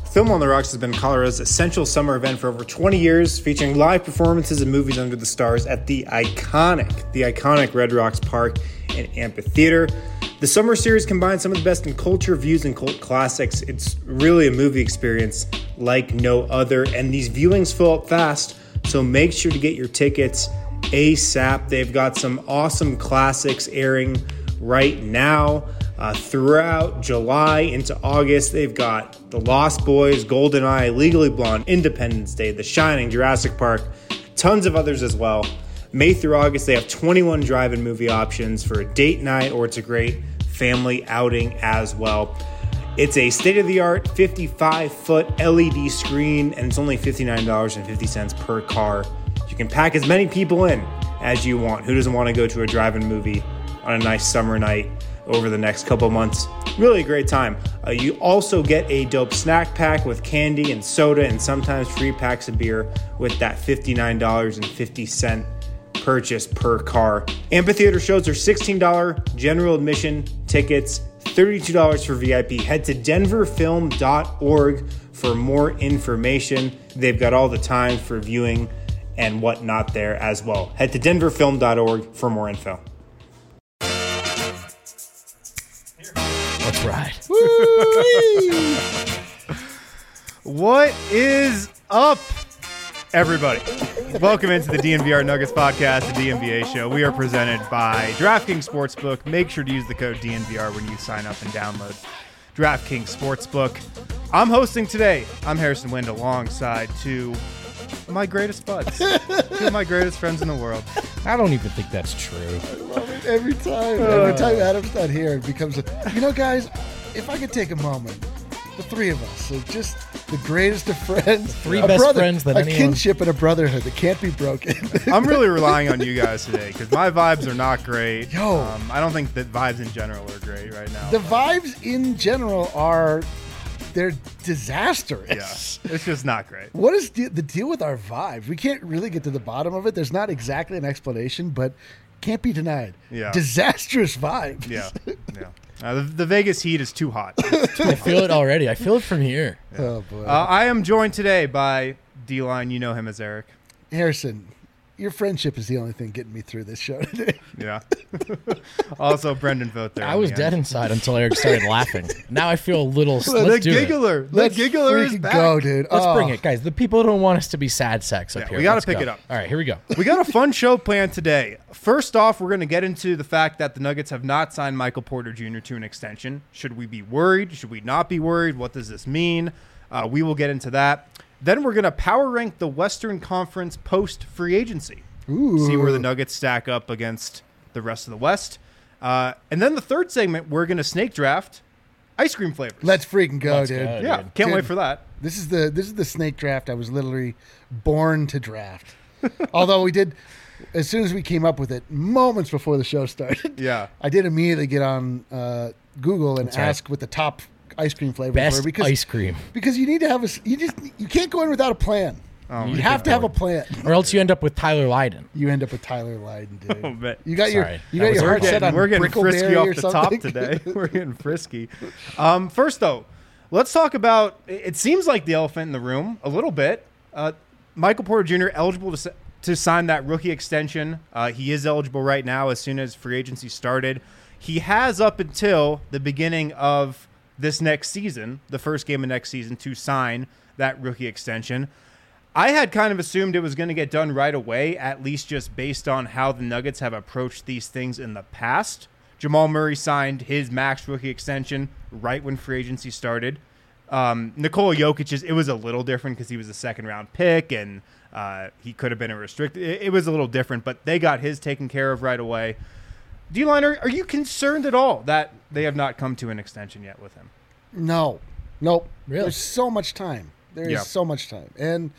Film on the Rocks has been Colorado's essential summer event for over 20 years, featuring live performances and movies under the stars at the iconic Red Rocks Park and Amphitheater. The summer series combines some of the best in culture, views, and cult classics. It's really a movie experience like no other, and these viewings fill up fast, so make sure to get your tickets ASAP. They've got some awesome classics airing right now. Throughout July into August, they've got The Lost Boys, GoldenEye, Legally Blonde, Independence Day, The Shining, Jurassic Park, tons of others as well. May through August, they have 21 drive-in movie options for a date night, or it's a great family outing as well. It's a state-of-the-art 55-foot LED screen, and it's only $59.50 per car. You can pack as many people in as you want. Who doesn't want to go to a drive-in movie on a nice summer night over the next couple months? Really a great time. You also get a dope snack pack with candy and soda, and sometimes free packs of beer with that $59.50 purchase per car. Amphitheater shows are $16 general admission tickets, $32 for VIP. Head to denverfilm.org for more information. They've got all the times for viewing and whatnot there as well. Head to denverfilm.org for more info. Let's ride. What is up, everybody? Welcome into the DNVR Nuggets podcast, the DNVA show. We are presented by DraftKings Sportsbook. Make sure to use the code DNVR when you sign up and download DraftKings Sportsbook. I'm hosting today. I'm Harrison Wind alongside two of my greatest buds, two of my greatest friends in the world. I don't even think that's true. I love it every time. Every time Adam's not here, it becomes guys, if I could take a moment, the three of us are just the greatest of friends. Three best friends that anyone. A kinship and a brotherhood that can't be broken. I'm really relying on you guys today because my vibes are not great. Yo. I don't think that vibes in general are great right now. The vibes in general they're disastrous. Yeah, it's just not great. What is the deal with our vibes? We can't really get to the bottom of it. There's not exactly an explanation, but can't be denied. Yeah. Disastrous vibes. Yeah. The Vegas heat is too hot. I feel it already. I feel it from here. Yeah. Oh, boy. I am joined today by D-Line. You know him as Eric. Harrison, your friendship is the only thing getting me through this show today. Yeah. Also, Brendan Vogt there. I was dead inside until Eric started laughing. Now I feel a little. Let's do giggler. it. The giggler is back. Go, dude. Let's bring it, guys. The people don't want us to be sad sex up here. We got to pick it up. All right, here we go. We got a fun show planned today. First off, we're going to get into the fact that the Nuggets have not signed Michael Porter Jr. to an extension. Should we be worried? Should we not be worried? What does this mean? We will get into that. Then we're going to power rank the Western Conference post-free agency. Ooh. See where the Nuggets stack up against the rest of the West. And then the third segment, we're going to snake draft ice cream flavors. Let's freaking go, dude. Yeah, can't wait for that. This is the snake draft I was literally born to draft. Although we did, as soon as we came up with it, moments before the show started, Yeah. I did immediately get on Google and ask what the top ice cream flavors Best were. ice cream. Because you need to have you can't go in without a plan. Oh, you have to have a plan. Or else you end up with Tyler Lydon. You end up with Tyler Lydon, dude. Oh, man. You got Sorry. your heart set on We're getting frisky Brickleberry off or the something. top today. We're getting frisky. First, though, let's talk about, it seems like the elephant in the room a little bit. Michael Porter Jr. eligible to sign that rookie extension. He is eligible right now as soon as free agency started. He has up until the beginning of this next season, the first game of next season, to sign that rookie extension. I had kind of assumed it was going to get done right away, at least just based on how the Nuggets have approached these things in the past. Jamal Murray signed his max rookie extension right when free agency started. Nikola Jokic, it was a little different because he was a second-round pick, and he could have been a restricted. It was a little different, but they got his taken care of right away. D-Line, are you concerned at all that they have not come to an extension yet with him? No. Nope. Really? There's so much time. There is Yeah. so much time. And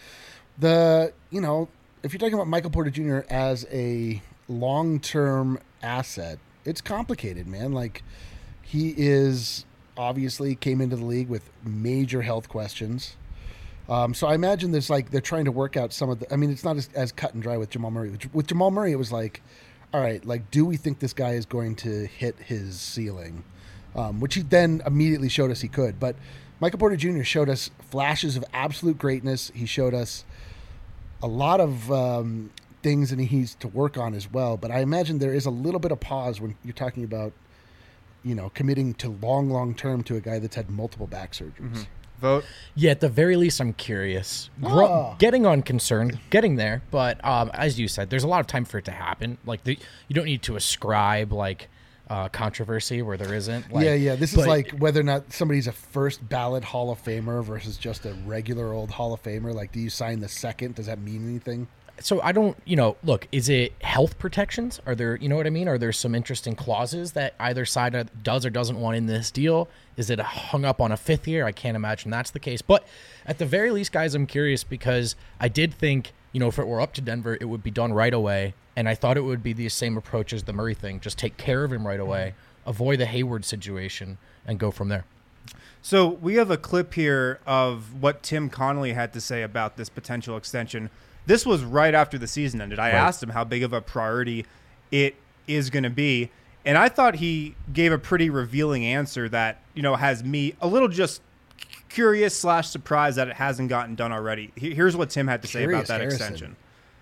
if you're talking about Michael Porter Jr. as a long-term asset, it's complicated, man. Like, he is obviously came into the league with major health questions. So I imagine there's they're trying to work out some of the, it's not as cut and dry with Jamal Murray. With Jamal Murray, it was like, all right, do we think this guy is going to hit his ceiling? Which he then immediately showed us he could. But Michael Porter Jr. showed us flashes of absolute greatness. He showed us a lot of things that he needs to work on as well. But I imagine there is a little bit of pause when you're talking about, committing to long term to a guy that's had multiple back surgeries. Mm-hmm. Vote. Yeah, at the very least, I'm curious. Getting on concern, getting there, but as you said, there's a lot of time for it to happen. Like you don't need to ascribe controversy where there isn't. Yeah. This is like whether or not somebody's a first ballot Hall of Famer versus just a regular old Hall of Famer. Like, do you sign the second? Does that mean anything? So I don't, look, is it health protections? Are there, you know what I mean? Are there some interesting clauses that either side does or doesn't want in this deal? Is it hung up on a fifth year? I can't imagine that's the case. But at the very least, guys, I'm curious because I did think, if it were up to Denver, it would be done right away. And I thought it would be the same approach as the Murray thing. Just take care of him right away, avoid the Hayward situation, and go from there. So we have a clip here of what Tim Connolly had to say about this potential extension. This was right after the season ended. I asked him how big of a priority it is going to be, and I thought he gave a pretty revealing answer that, has me a little just curious / surprised that it hasn't gotten done already. Here's what Tim had to say about that extension.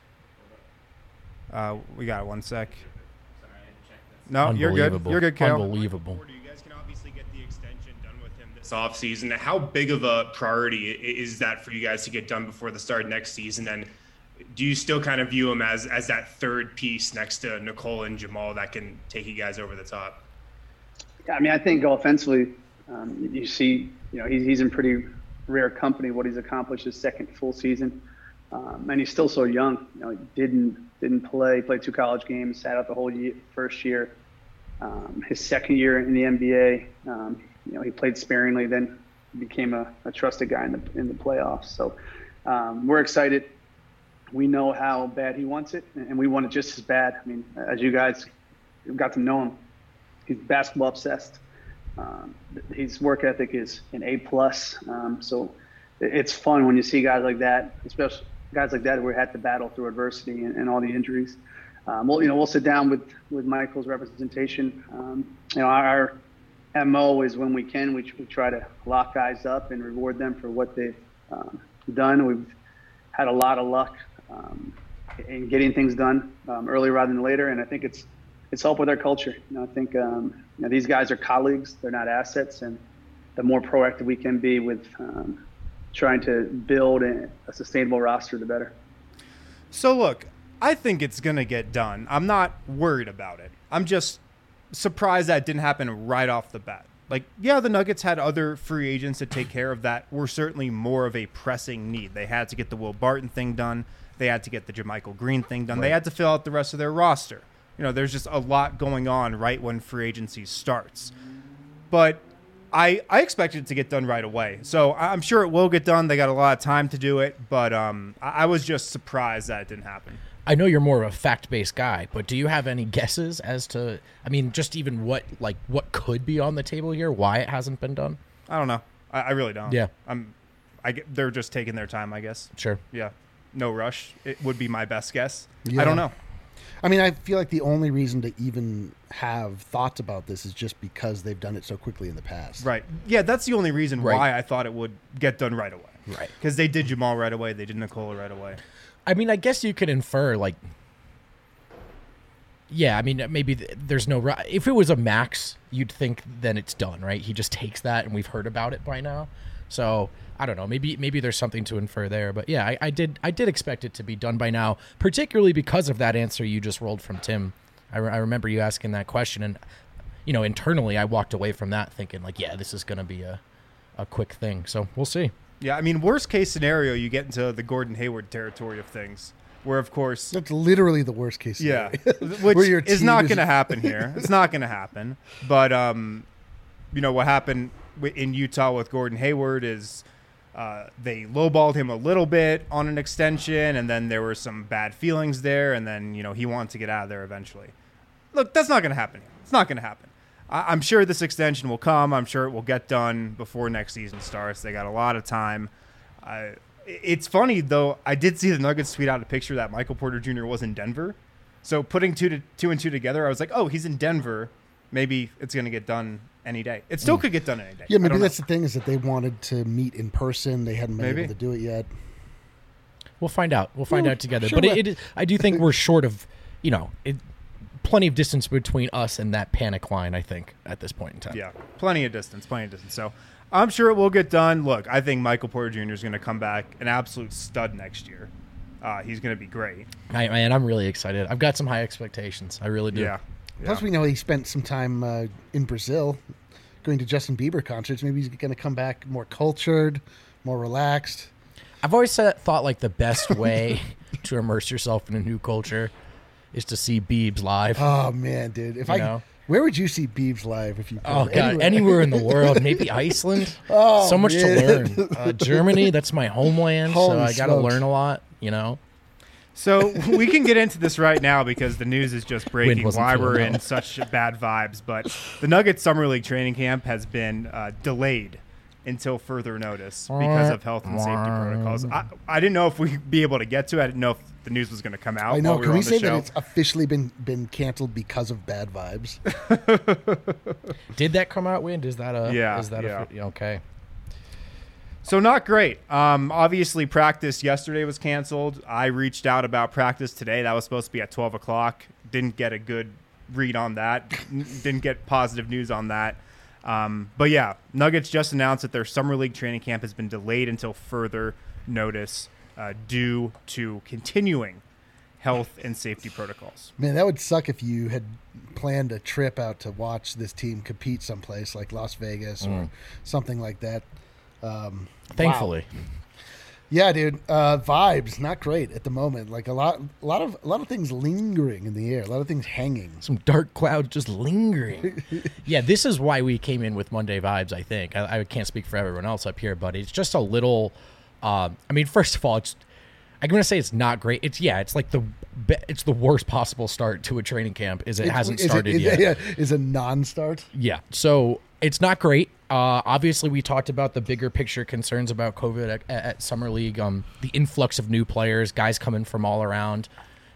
We got it, 1 sec. No, you're good. You're good, Kale. Unbelievable. You guys can obviously get the extension done with him this offseason. How big of a priority is that for you guys to get done before the start of next season? And do you still kind of view him as that third piece next to Nicole and Jamal that can take you guys over the top? Yeah, I mean, I think offensively, you see, he's in pretty rare company what he's accomplished his second full season, and he's still so young. He didn't play, played 2 college games, sat out the whole first year. His second year in the NBA, he played sparingly, then became a trusted guy in the playoffs. So we're excited. We know how bad he wants it, and we want it just as bad. I mean, as you guys got to know him, he's basketball obsessed. His work ethic is an A+. So it's fun when you see guys like that, especially guys like that who had to battle through adversity and all the injuries. We'll sit down with Michael's representation. Our MO is when we can, we try to lock guys up and reward them for what they've done. We've had a lot of luck in getting things done earlier rather than later, and I think it's helped with our culture. I think these guys are colleagues; they're not assets, and the more proactive we can be with trying to build a sustainable roster, the better. So look, I think it's gonna get done. I'm not worried about it. I'm just surprised that didn't happen right off the bat. The Nuggets had other free agents to take care of that were certainly more of a pressing need. They had to get the Will Barton thing done. They had to get the JaMychal Green thing done. Right. They had to fill out the rest of their roster. There's just a lot going on right when free agency starts. But I expected it to get done right away. So I'm sure it will get done. They got a lot of time to do it. But I was just surprised that it didn't happen. I know you're more of a fact-based guy, but do you have any guesses as to, just even what could be on the table here, why it hasn't been done? I don't know. I really don't. Yeah. They're just taking their time, I guess. Sure. Yeah. No rush. It would be my best guess. Yeah. I don't know. I feel like the only reason to even have thoughts about this is just because they've done it so quickly in the past. Right. Yeah, that's the only reason why I thought it would get done right away. Right. Because they did Jamal right away. They did Nikola right away. I guess you could infer, maybe there's no – if it was a max, you'd think then it's done, right? He just takes that, and we've heard about it by now. So, I don't know. Maybe there's something to infer there. But, yeah, I did expect it to be done by now, particularly because of that answer you just rolled from Tim. I remember you asking that question, and, internally I walked away from that thinking, this is going to be a quick thing. So, we'll see. Yeah, worst case scenario, you get into the Gordon Hayward territory of things, where, of course... That's literally the worst case scenario. Yeah, which is not going to happen here. It's not going to happen. But, what happened in Utah with Gordon Hayward is they lowballed him a little bit on an extension, and then there were some bad feelings there, and then, he wanted to get out of there eventually. Look, that's not going to happen here. It's not going to happen. I'm sure this extension will come. I'm sure it will get done before next season starts. They got a lot of time. It's funny, though. I did see the Nuggets tweet out a picture that Michael Porter Jr. was in Denver. So putting two and two together, I was like, oh, he's in Denver maybe it's going to get done any day. It still could get done any day. Yeah, maybe that's the thing, is that they wanted to meet in person. They hadn't been Maybe. able to do it yet. We'll find out. We'll find out together. sure But will. it is, I do think we're short of, plenty of distance between us and that panic line, I think, at this point in time. Yeah, plenty of distance. So I'm sure it will get done. Look, I think Michael Porter Jr. is going to come back an absolute stud next year. He's going to be great. I'm really excited. I've got some high expectations. I really do. Yeah. Plus, we know he spent some time in Brazil going to Justin Bieber concerts. Maybe he's going to come back more cultured, more relaxed. I've always thought like the best way to immerse yourself in a new culture is to see Biebs live. Oh, man, dude. Where would you see Biebs live if you could? Oh, God. Anywhere in the world. Maybe Iceland. Oh, so much man. to learn. Germany, that's my homeland. So Holy I got to smokes. learn a lot, So we can get into this right now because the news is just breaking wasn't why feeling we're well. in such bad vibes. But the Nuggets Summer League training camp has been delayed until further notice because of health and safety protocols. I didn't know if we'd be able to get to it. I didn't know if the news was going to come out. I know. while we Can were we on the say show. that it's officially been canceled because of bad vibes? Did that come out, Wind? Is that Yeah, okay. So not great. Obviously, practice yesterday was canceled. I reached out about practice today. That was supposed to be at 12 o'clock. Didn't get a good read on that. Didn't get positive news on that. But yeah, Nuggets just announced that their Summer League training camp has been delayed until further notice due to continuing health and safety protocols. Man, that would suck if you had planned a trip out to watch this team compete someplace like Las Vegas or something like that. Thankfully. Wow. Yeah, dude. Vibes not great at the moment. Like a lot of things lingering in the air. A lot of things hanging. Some dark clouds just lingering. Yeah, this is why we came in with Monday vibes, I think. I can't speak for everyone else up here, but it's just a little first of all, I'm going to say it's not great. It's like it's the worst possible start to a training camp it hasn't started yet. Yeah, is a non-start. Yeah. So it's not great. Obviously, we talked about the bigger picture concerns about COVID at Summer League, the influx of new players, guys coming from all around.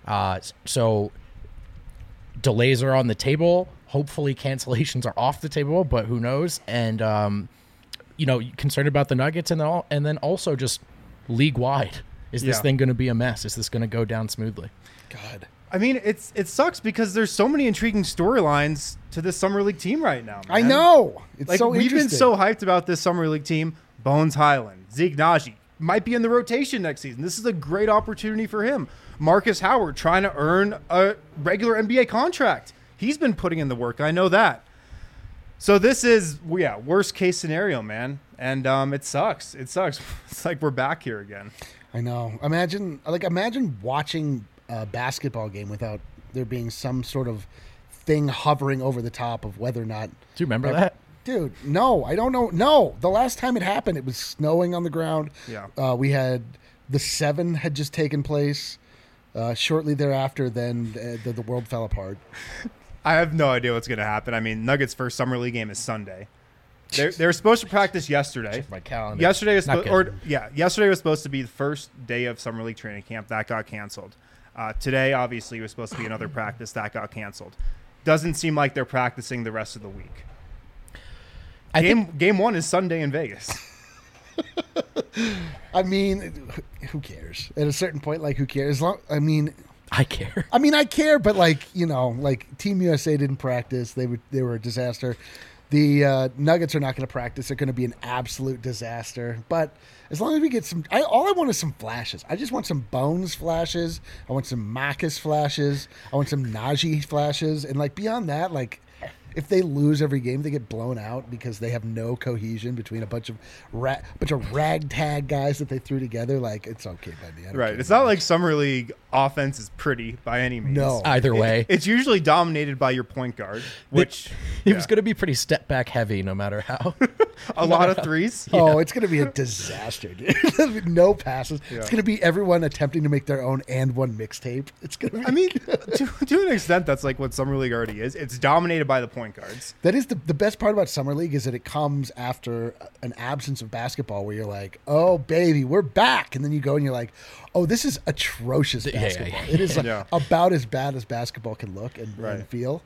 So delays are on the table. Hopefully cancellations are off the table, but who knows? And, concerned about the Nuggets and then also just league-wide. Is this thing going to be a mess? Is this going to go down smoothly? God. I mean, it sucks because there's so many intriguing storylines to this Summer League team right now, man. I know. It's Like, so we've been interesting. so hyped about this Summer League team. Bones Highland, Zeke Naji might be in the rotation next season. This is a great opportunity for him. Marcus Howard trying to earn a regular NBA contract. He's been putting in the work. I know that. So this is, worst case scenario, man. And it sucks. It sucks. It's like we're back here again. I know. Imagine watching a basketball game without there being some sort of thing hovering over the top of whether or not. Do you remember that? Dude, no, I don't know. No, the last time it happened, it was snowing on the ground. Yeah. We had the 7 had just taken place. Shortly thereafter, then the world fell apart. I have no idea what's going to happen. I mean, Nuggets' first Summer League game is Sunday. They were supposed to practice yesterday. Check my calendar. Yesterday was Not yesterday was supposed to be the first day of Summer League training camp. That got canceled. Today, obviously, was supposed to be another practice. That got canceled. Doesn't seem like they're practicing the rest of the week. Game 1 is Sunday in Vegas. I mean, who cares? At a certain point, like, who cares? I care. I care, but like Team USA didn't practice. They were a disaster. The Nuggets are not going to practice. They're going to be an absolute disaster. But as long as we get some, all I want is some flashes. I just want some Bones flashes. I want some Marcus flashes. I want some Najee flashes. And like beyond that, like if they lose every game, they get blown out because they have no cohesion between a bunch of ragtag guys that they threw together. Like, it's okay by me. I don't Right. care. It's not like Summer League offense is pretty by any means. No. Either way. It's usually dominated by your point guard, which It was going to be pretty step back heavy no matter how. a lot of threes. Oh, it's going to be a disaster, dude. No passes. Yeah. It's going to be everyone attempting to make their own and one mixtape. It's going to be. I mean, to an extent, that's like what Summer League already is. It's dominated by the point guards. that is the best part about Summer League is that it comes after an absence of basketball where you're like, oh, baby, we're back. And then you go and you're like, oh, this is atrocious basketball. It is Yeah. about as bad as basketball can look and Right. feel.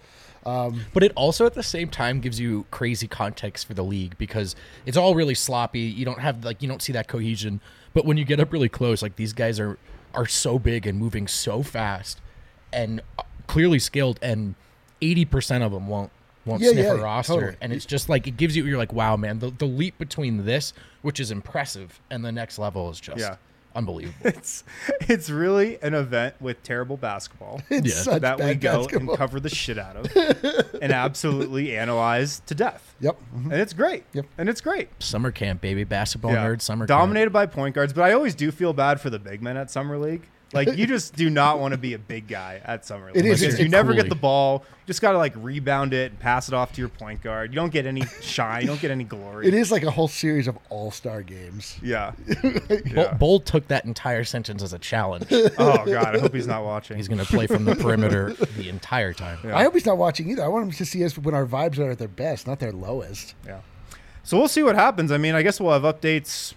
But it also at the same time gives you crazy context for the league because it's all really sloppy. You don't see that cohesion. But when you get up really close, like these guys are so big and moving so fast and clearly skilled, and 80% of them won't sniff a roster. Totally. And it's just like, it gives you're like, wow, man, the leap between this, which is impressive, and the next level is just unbelievable. It's really an event with terrible basketball that we go and cover the shit out of and absolutely analyze to death. Yep. And it's great. Yep. And it's great. Summer camp, baby. Basketball nerd summer Dominated camp. by point guards, but I always do feel bad for the big men at Summer League. Like, you just do not want to be a big guy at Summer League. It is. Because you never get the ball. You just got to, like, rebound it and pass it off to your point guard. You don't get any shine. You don't get any glory. It is like a whole series of all-star games. Yeah. Bull took that entire sentence as a challenge. Oh, God. I hope he's not watching. He's going to play from the perimeter the entire time. Yeah. I hope he's not watching either. I want him to see us when our vibes are at their best, not their lowest. Yeah. So we'll see what happens. I mean, I guess we'll have updates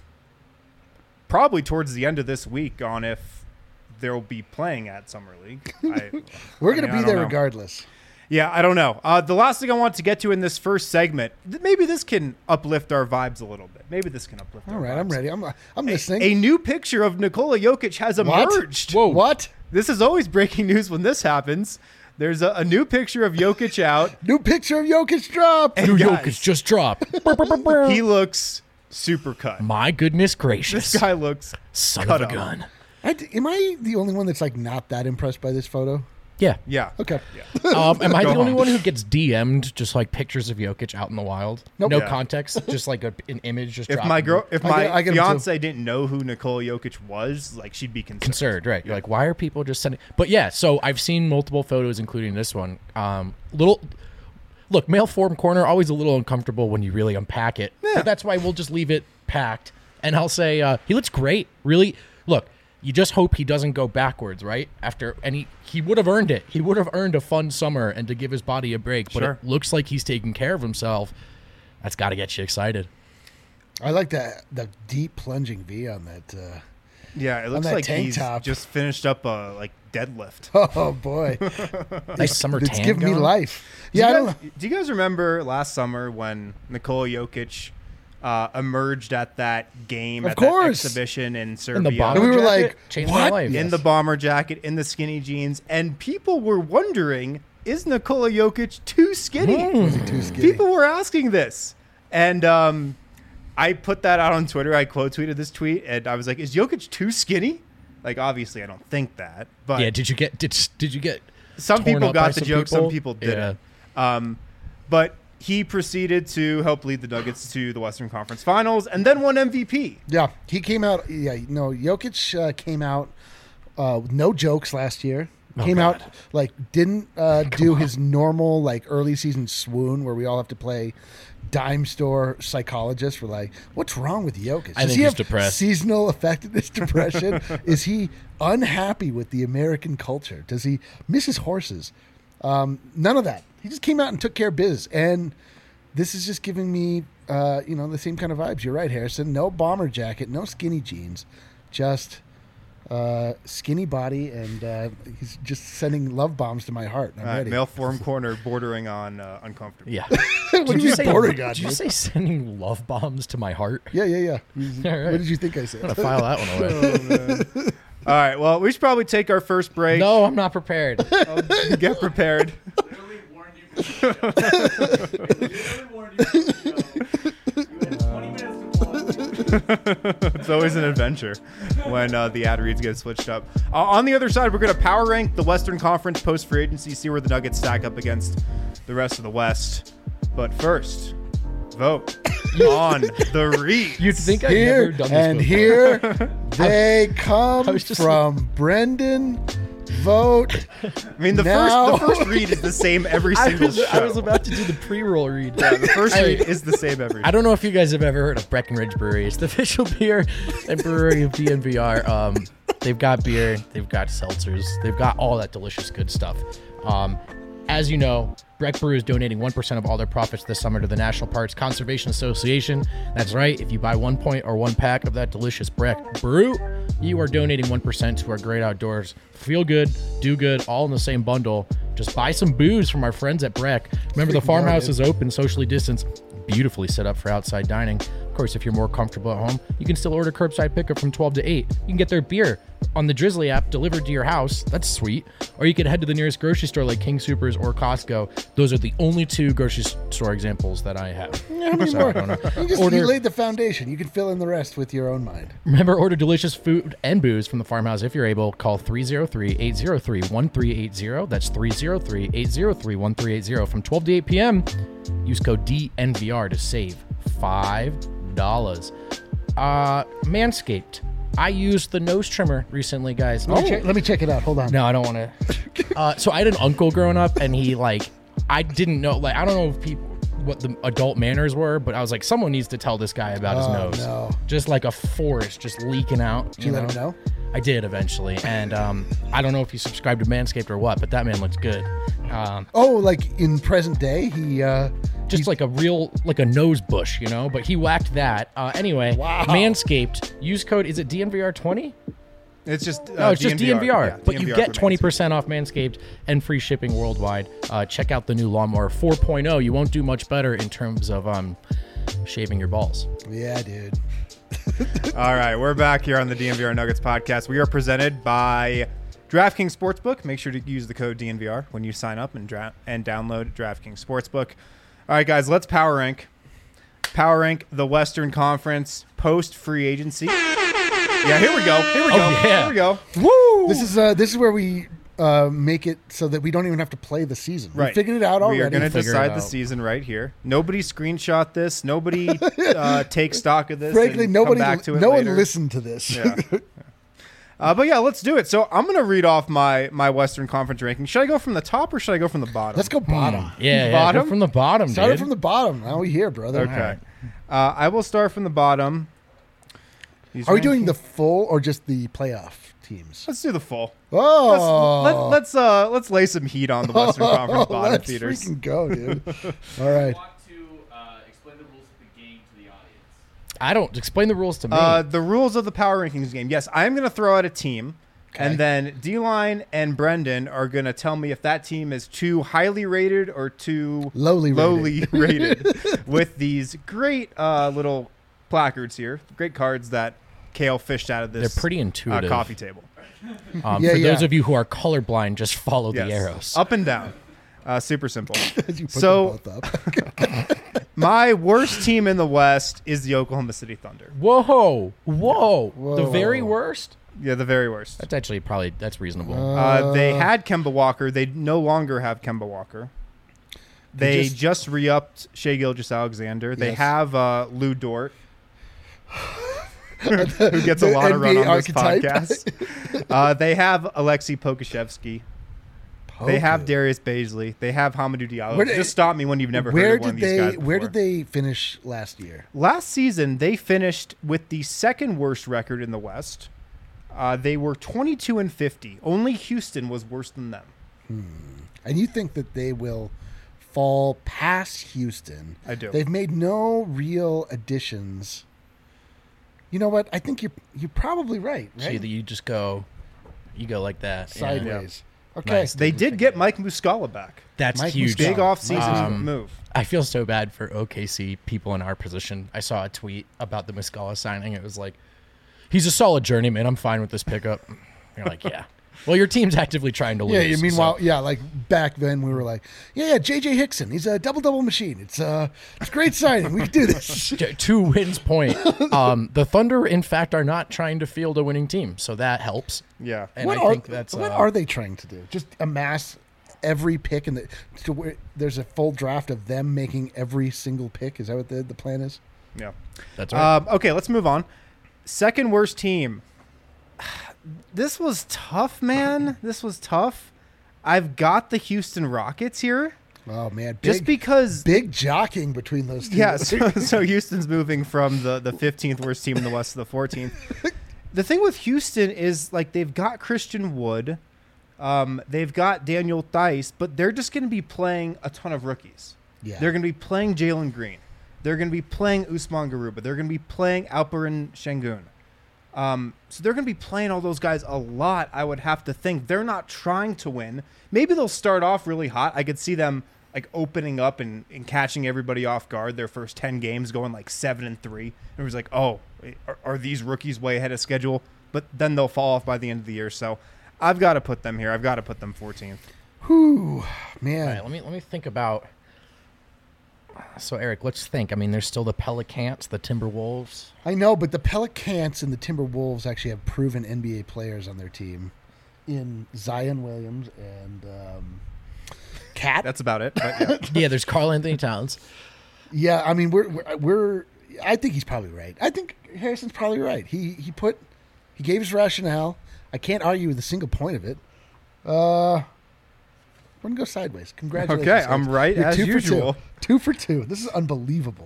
probably towards the end of this week on if they'll be playing at Summer League. We're going to be there regardless. Yeah, I don't know. The last thing I want to get to in this first segment, maybe this can uplift our vibes a little bit. Maybe this can uplift our vibes. All right, I'm ready. I'm listening. A new picture of Nikola Jokic has emerged. Whoa. What? This is always breaking news when this happens. There's a new picture of Jokic out. New picture of Jokic dropped. New Jokic just dropped. He looks super cut. My goodness gracious. This guy looks son of a gun. Am I the only one that's like not that impressed by this photo? Yeah. Yeah. Okay. Yeah. Am I the only one who gets DM'd just like pictures of Jokic out in the wild? Nope. No context, just like an image. Just if my fiance too. didn't know who Nikola Jokic was, like she'd be concerned, right? You're like, why are people just sending? But yeah, so I've seen multiple photos, including this one. Look, male form corner always a little uncomfortable when you really unpack it. Yeah. But that's why we'll just leave it packed, and I'll say he looks great. Really, look. You just hope he doesn't go backwards, right? He would have earned it. He would have earned a fun summer and to give his body a break. But it looks like he's taking care of himself. That's got to get you excited. I like the deep plunging V on that. Yeah, it looks like he's just finished up a deadlift. Oh boy, nice summer tan. It's giving me life. Do you guys remember last summer when Nikola Jokic emerged at that game, that exhibition in Serbia? In the bomber we were like, changed what? My life. In the bomber jacket, in the skinny jeans, and people were wondering, is Nikola Jokic too skinny? Was he too skinny? People were asking this. And I put that out on Twitter. I quote tweeted this tweet, and I was like, is Jokic too skinny? Like, obviously, I don't think that. But yeah, did you get some people got the joke, some people didn't. Yeah. But he proceeded to help lead the Nuggets to the Western Conference Finals and then won MVP. Yeah, he came out. Yeah, no, Jokic came out with no jokes last year. Out didn't do his normal early season swoon where we all have to play dime store psychologist. We're like, what's wrong with Jokic? I think he's depressed. Seasonal effectiveness depression? Is he unhappy with the American culture? Does he miss his horses? None of that. He just came out and took care of biz. And this is just giving me, the same kind of vibes. You're right, Harrison. No bomber jacket, no skinny jeans, just skinny body, and he's just sending love bombs to my heart. I'm ready. Male form corner bordering on uncomfortable. Yeah. What did you say? Did you say sending love bombs to my heart? Yeah. All right. What did you think I said? I'm going to file that one away. All right. Well, we should probably take our first break. No, I'm not prepared. Get prepared. Literally warned you for the show. You had 20 minutes to plug. It's always an adventure when the ad reads get switched up. On the other side, we're going to power rank the Western Conference post-free agency, see where the Nuggets stack up against the rest of the West. But first, vote on the read. You'd think I've never done this and before. here they come from Brendan. Vote. I mean, the first read is the same every single show. I was about to do the pre-roll read. Yeah, the first read is the same every show. I don't know if you guys have ever heard of Breckenridge Brewery. It's the official beer and brewery of DNVR. They've got beer, they've got seltzers, they've got all that delicious good stuff. As you know, Breck Brew is donating 1% of all their profits this summer to the National Parks Conservation Association. That's right. If you buy 1 point or 1 pack of that delicious Breck Brew, you are donating 1% to our great outdoors. Feel good, do good, all in the same bundle. Just buy some booze from our friends at Breck. Remember, the farmhouse is open, socially distanced, beautifully set up for outside dining. Of course, if you're more comfortable at home, you can still order curbside pickup from 12 to 8. You can get their beer on the Drizzly app delivered to your house. That's sweet. Or you could head to the nearest grocery store like King Supers or Costco. Those are the only 2 grocery store examples that I have. How many Sorry, more? You laid the foundation. You can fill in the rest with your own mind. Remember, order delicious food and booze from the farmhouse if you're able. Call 303-803-1380. That's 303-803-1380 from 12 to 8 p.m. Use code DNVR to save $5. Manscaped. I used the nose trimmer recently, guys. Let me check it out. Hold on. No, I don't want to. So I had an uncle growing up, and he I didn't know, I don't know if what the adult manners were, but I was like, someone needs to tell this guy about his nose. No. Just like a forest, just leaking out. Did you let him know? I did eventually, and I don't know if he subscribed to Manscaped or what, but that man looks good. Like in present day, Just like a nose bush, but he whacked that. Anyway, Wow. Manscaped, use code, is it DNVR20? It's just No, it's just DNVR. Yeah, but DNVR you get for Manscaped. 20% off Manscaped and free shipping worldwide. Check out the new Lawnmower 4.0. You won't do much better in terms of shaving your balls. yeah, dude. All right, we're back here on the DNVR Nuggets podcast. We are presented by DraftKings Sportsbook. Make sure to use the code DNVR when you sign up and download DraftKings Sportsbook. All right, guys, let's power rank. Power rank the Western Conference post free agency. Yeah, here we go. Here we go. yeah. Here we go. Woo! This is where we make it so that we don't even have to play the season. Right. We figured it out already. We are going to Figure it decide the out. season right here. Nobody screenshot this. Nobody take stock of this. Frankly, and nobody, come back to it no later. one listened to this. Yeah. But yeah, let's do it. So I'm going to read off my Western Conference ranking. Should I go from the top or should I go from the bottom? Let's go bottom. Yeah, Bottom? go from the bottom, Start it dude. from the bottom. Now we here, brother. Okay. I will start from the bottom. These Are we doing rankings- the full or just the playoff teams? Let's do the full. Oh, Let's lay some heat on the Western Conference bottom let's feeders. freaking go, dude. All right. want to explain the rules of the game to the audience. I don't explain the rules to me. The rules of the power rankings game. Yes, I'm going to throw out a team, Okay. and then D-Line and Brendan are going to tell me if that team is too highly rated or too Lowly rated with these great little placards here. Great cards that Kale fished out of this They're pretty intuitive. coffee table. Yeah, for yeah. those of you who are colorblind, just follow the Yes. arrows. Up and down. Super simple. You put So- them both up. My worst team in the West is the Oklahoma City Thunder. Whoa. The Whoa. very worst? Yeah, the very worst. That's actually that's reasonable. They had Kemba Walker. They no longer have Kemba Walker. They just re-upped Shai Gilgeous-Alexander. They Yes. have Lou Dort, who gets a The lot of run NBA on this archetype. podcast. They have Alexei Pokashevsky. They have Okay. Darius Baisley. They have Hamadou Diallo. Where did- Just stop me when you've never Where heard of one did of these they? guys Where before. did they finish last year? Last season, they finished with the second worst record in the West. They were 22-50. Only Houston was worse than them. And you think that they will fall past Houston? I do. They've made no real additions. You know what? I think you're probably right. See that you just go like that. Yeah. Sideways. Okay. Nice. They did get Mike Muscala back. That's Mike huge. Muscala. Big off-season Um, move. I feel so bad for OKC people in our position. I saw a tweet about the Muscala signing. It was like, he's a solid journeyman. I'm fine with this pickup. You're like, yeah. Well, your team's actively trying to lose. Yeah. Meanwhile, so- yeah, like back then we were like, yeah, JJ Hickson. He's a double machine. It's a great signing. We can do this. to Wynn's point, the Thunder, in fact, are not trying to field a winning team, so that helps. Yeah. And what I think that's what are they trying to do? Just amass every pick to where there's a full draft of them making every single pick. Is that what the plan is? Yeah. That's right. Okay, let's move on. Second worst team. This was tough, man. This was tough. I've got the Houston Rockets here. Oh man, Just because big jockeying between those two. Yeah, so Houston's moving from the 15th worst team in the West to the 14th. The thing with Houston is, like, they've got Christian Wood. They've got Daniel Theis, but they're just going to be playing a ton of rookies. Yeah. They're going to be playing Jalen Green. They're going to be playing Usman Garuba. They're going to be playing Alperen Şengün. So they're going to be playing all those guys a lot, I would have to think. They're not trying to win. Maybe they'll start off really hot. I could see them like opening up and catching everybody off guard. Their first 10 games going like 7-3. And it was like, oh, are these rookies way ahead of schedule? But then they'll fall off by the end of the year. So I've got to put them here. I've got to put them 14th. Whew, man. All right, let me think about. So Eric, let's think. I mean, there's still the Pelicans, the Timberwolves. I know, but the Pelicans and the Timberwolves actually have proven NBA players on their team in Zion Williams and Cat. That's about it. But yeah. Yeah, there's Karl Anthony Towns. Yeah, I mean, we're. I think he's probably right. I think Harrison's probably right. He gave his rationale. I can't argue with a single point of it. We're gonna go sideways. Congratulations. Okay, I'm Hayes. right You're as 2 for usual. 2. 2 for 2. This is unbelievable.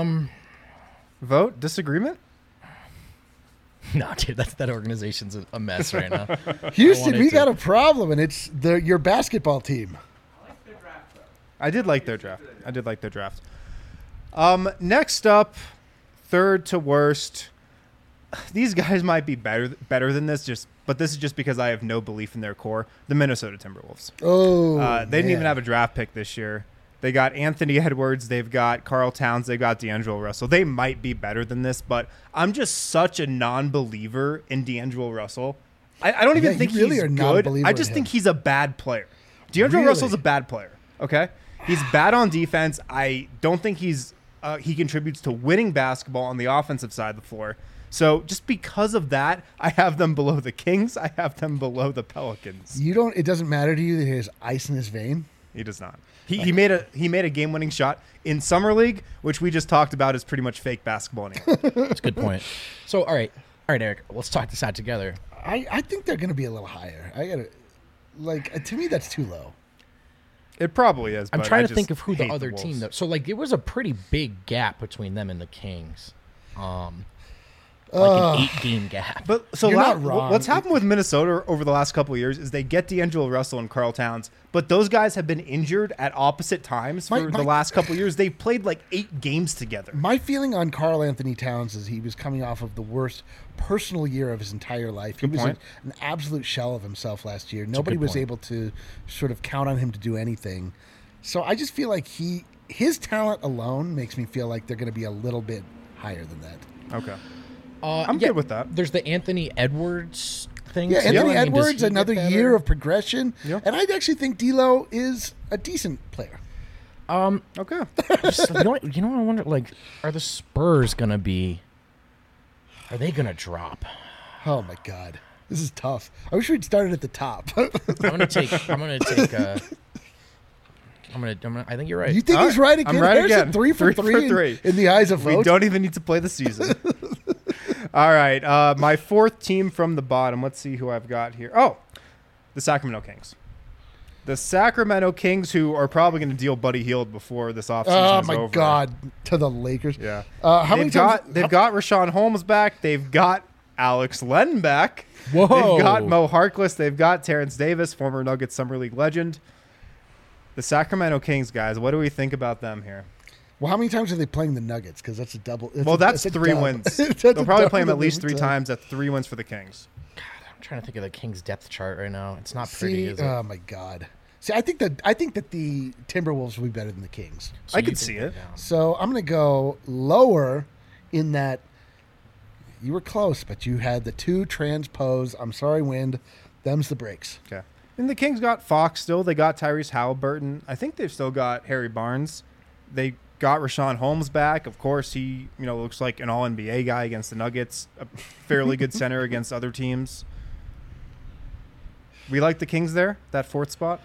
Vote? Disagreement? No, dude, that organization's a mess right now. Houston, wanted we to- got a problem, and it's your basketball team. I did like their draft. Next up, third to worst. These guys might be better than this, but this is just because I have no belief in their core. The Minnesota Timberwolves. Oh, They didn't even man. have a draft pick this year. They got Anthony Edwards. They've got Karl Towns. They've got D'Angelo Russell. They might be better than this, but I'm just such a non-believer in D'Angelo Russell. I don't even Yeah, think you really he's are not a good. believer I in just him. think he's a bad player. D'Angelo Really? Russell's a bad player. Okay, he's bad on defense. I don't think he contributes to winning basketball on the offensive side of the floor. So just because of that, I have them below the Kings. I have them below the Pelicans. It doesn't matter to you that he has ice in his vein? He does not. He made a game-winning shot in Summer League, which we just talked about is pretty much fake basketball anyway. That's a good point. So, all right, Eric, let's talk this out together. I think they're going to be a little higher. To me, that's too low. It probably is. I'm but trying I to think just of who the hate other Wolves. team. So, like, it was a pretty big gap between them and the Kings. Like an 8-game gap. But so You're not wrong. what's happened with Minnesota over the last couple of years is they get D'Angelo Russell and Karl Towns, but those guys have been injured at opposite times for the last couple of years. They've played like 8 games together. My feeling on Karl Anthony Towns is he was coming off of the worst personal year of his entire life. He was point. an absolute shell of himself last year. Nobody good was point. able to sort of count on him to do anything. So I just feel like his talent alone makes me feel like they're going to be a little bit higher than that. Okay. I'm good with that. There's the Anthony Edwards thing. Yeah, too. Anthony I mean, does Edwards, he another get better? year of progression. Yeah. And I actually think D'Lo is a decent player. Okay. Just, you know what I wonder? Like, are the Spurs gonna be? Are they gonna drop? Oh, my God. This is tough. I wish we'd started at the top. I'm gonna take. I think you're right. You think All he's right. right again? I'm right Harrison, again. 3 for 3 in the eyes of We vote. don't even need to play the season. All right. My fourth team from the bottom. Let's see who I've got here. Oh, the Sacramento Kings. The Sacramento Kings, who are probably going to deal Buddy Hield before this offseason Oh, is my over. God. To the Lakers. Yeah. How many times? They've got Rashawn Holmes back. They've got Alex Len back. Whoa. They've got Mo Harkless. They've got Terrence Davis, former Nuggets Summer League legend. The Sacramento Kings, guys, what do we think about them here? Well, how many times are they playing the Nuggets? Because that's a double. That's a 3 dub. wins. That's They'll a probably play them double at least 3 every times. That's 3 wins for the Kings. I'm trying to think of the Kings depth chart right now. It's not pretty, See, is it? oh my God. See, I think that the Timberwolves will be better than the Kings. So I you could think see they're it. down. So I'm going to go lower in that you were close, but you had the 2 transpose. I'm sorry, Wind. Them's the breaks. Okay. And the Kings got Fox still. They got Tyrese Halliburton. I think they've still got Harry Barnes. They got Rashawn Holmes back. Of course, he looks like an All-NBA guy against the Nuggets. A fairly good center against other teams. We like the Kings there, that 4th spot.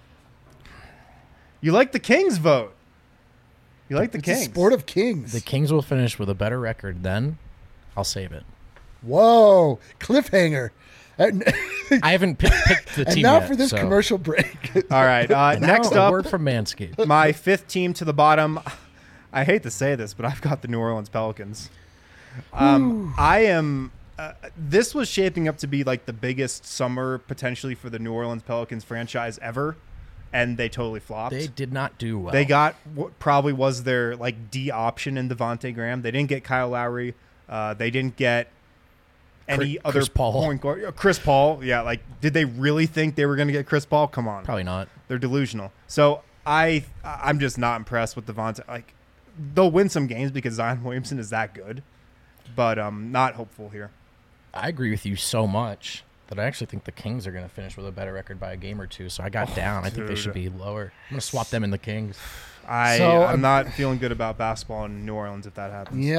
You like the Kings vote. You like the It's Kings. a sport of kings. The Kings will finish with a better record. Then I'll save it. Whoa. Cliffhanger. And I haven't picked the team now yet, for this so- commercial break. All right. And now Next a up, word from Manscaped. my 5th team to the bottom. I hate to say this, but I've got the New Orleans Pelicans. I am. This was shaping up to be like the biggest summer potentially for the New Orleans Pelicans franchise ever, and they totally flopped. They did not do well. They got what probably was their like D option in Devontae Graham. They didn't get Kyle Lowry. They didn't get any other Chris Paul. point guard. Chris Paul, yeah. Like, did they really think they were going to get Chris Paul? Come on, Probably not. they're delusional. So I'm just not impressed with Devontae. Like, they'll win some games because Zion Williamson is that good, but I'm not hopeful here. I agree with you so much that I actually think the Kings are going to finish with a better record by a game or two. So I got down. I think they dude. should be lower. I'm going to swap them in the Kings. I'm not feeling good about basketball in New Orleans if that happens. Yeah,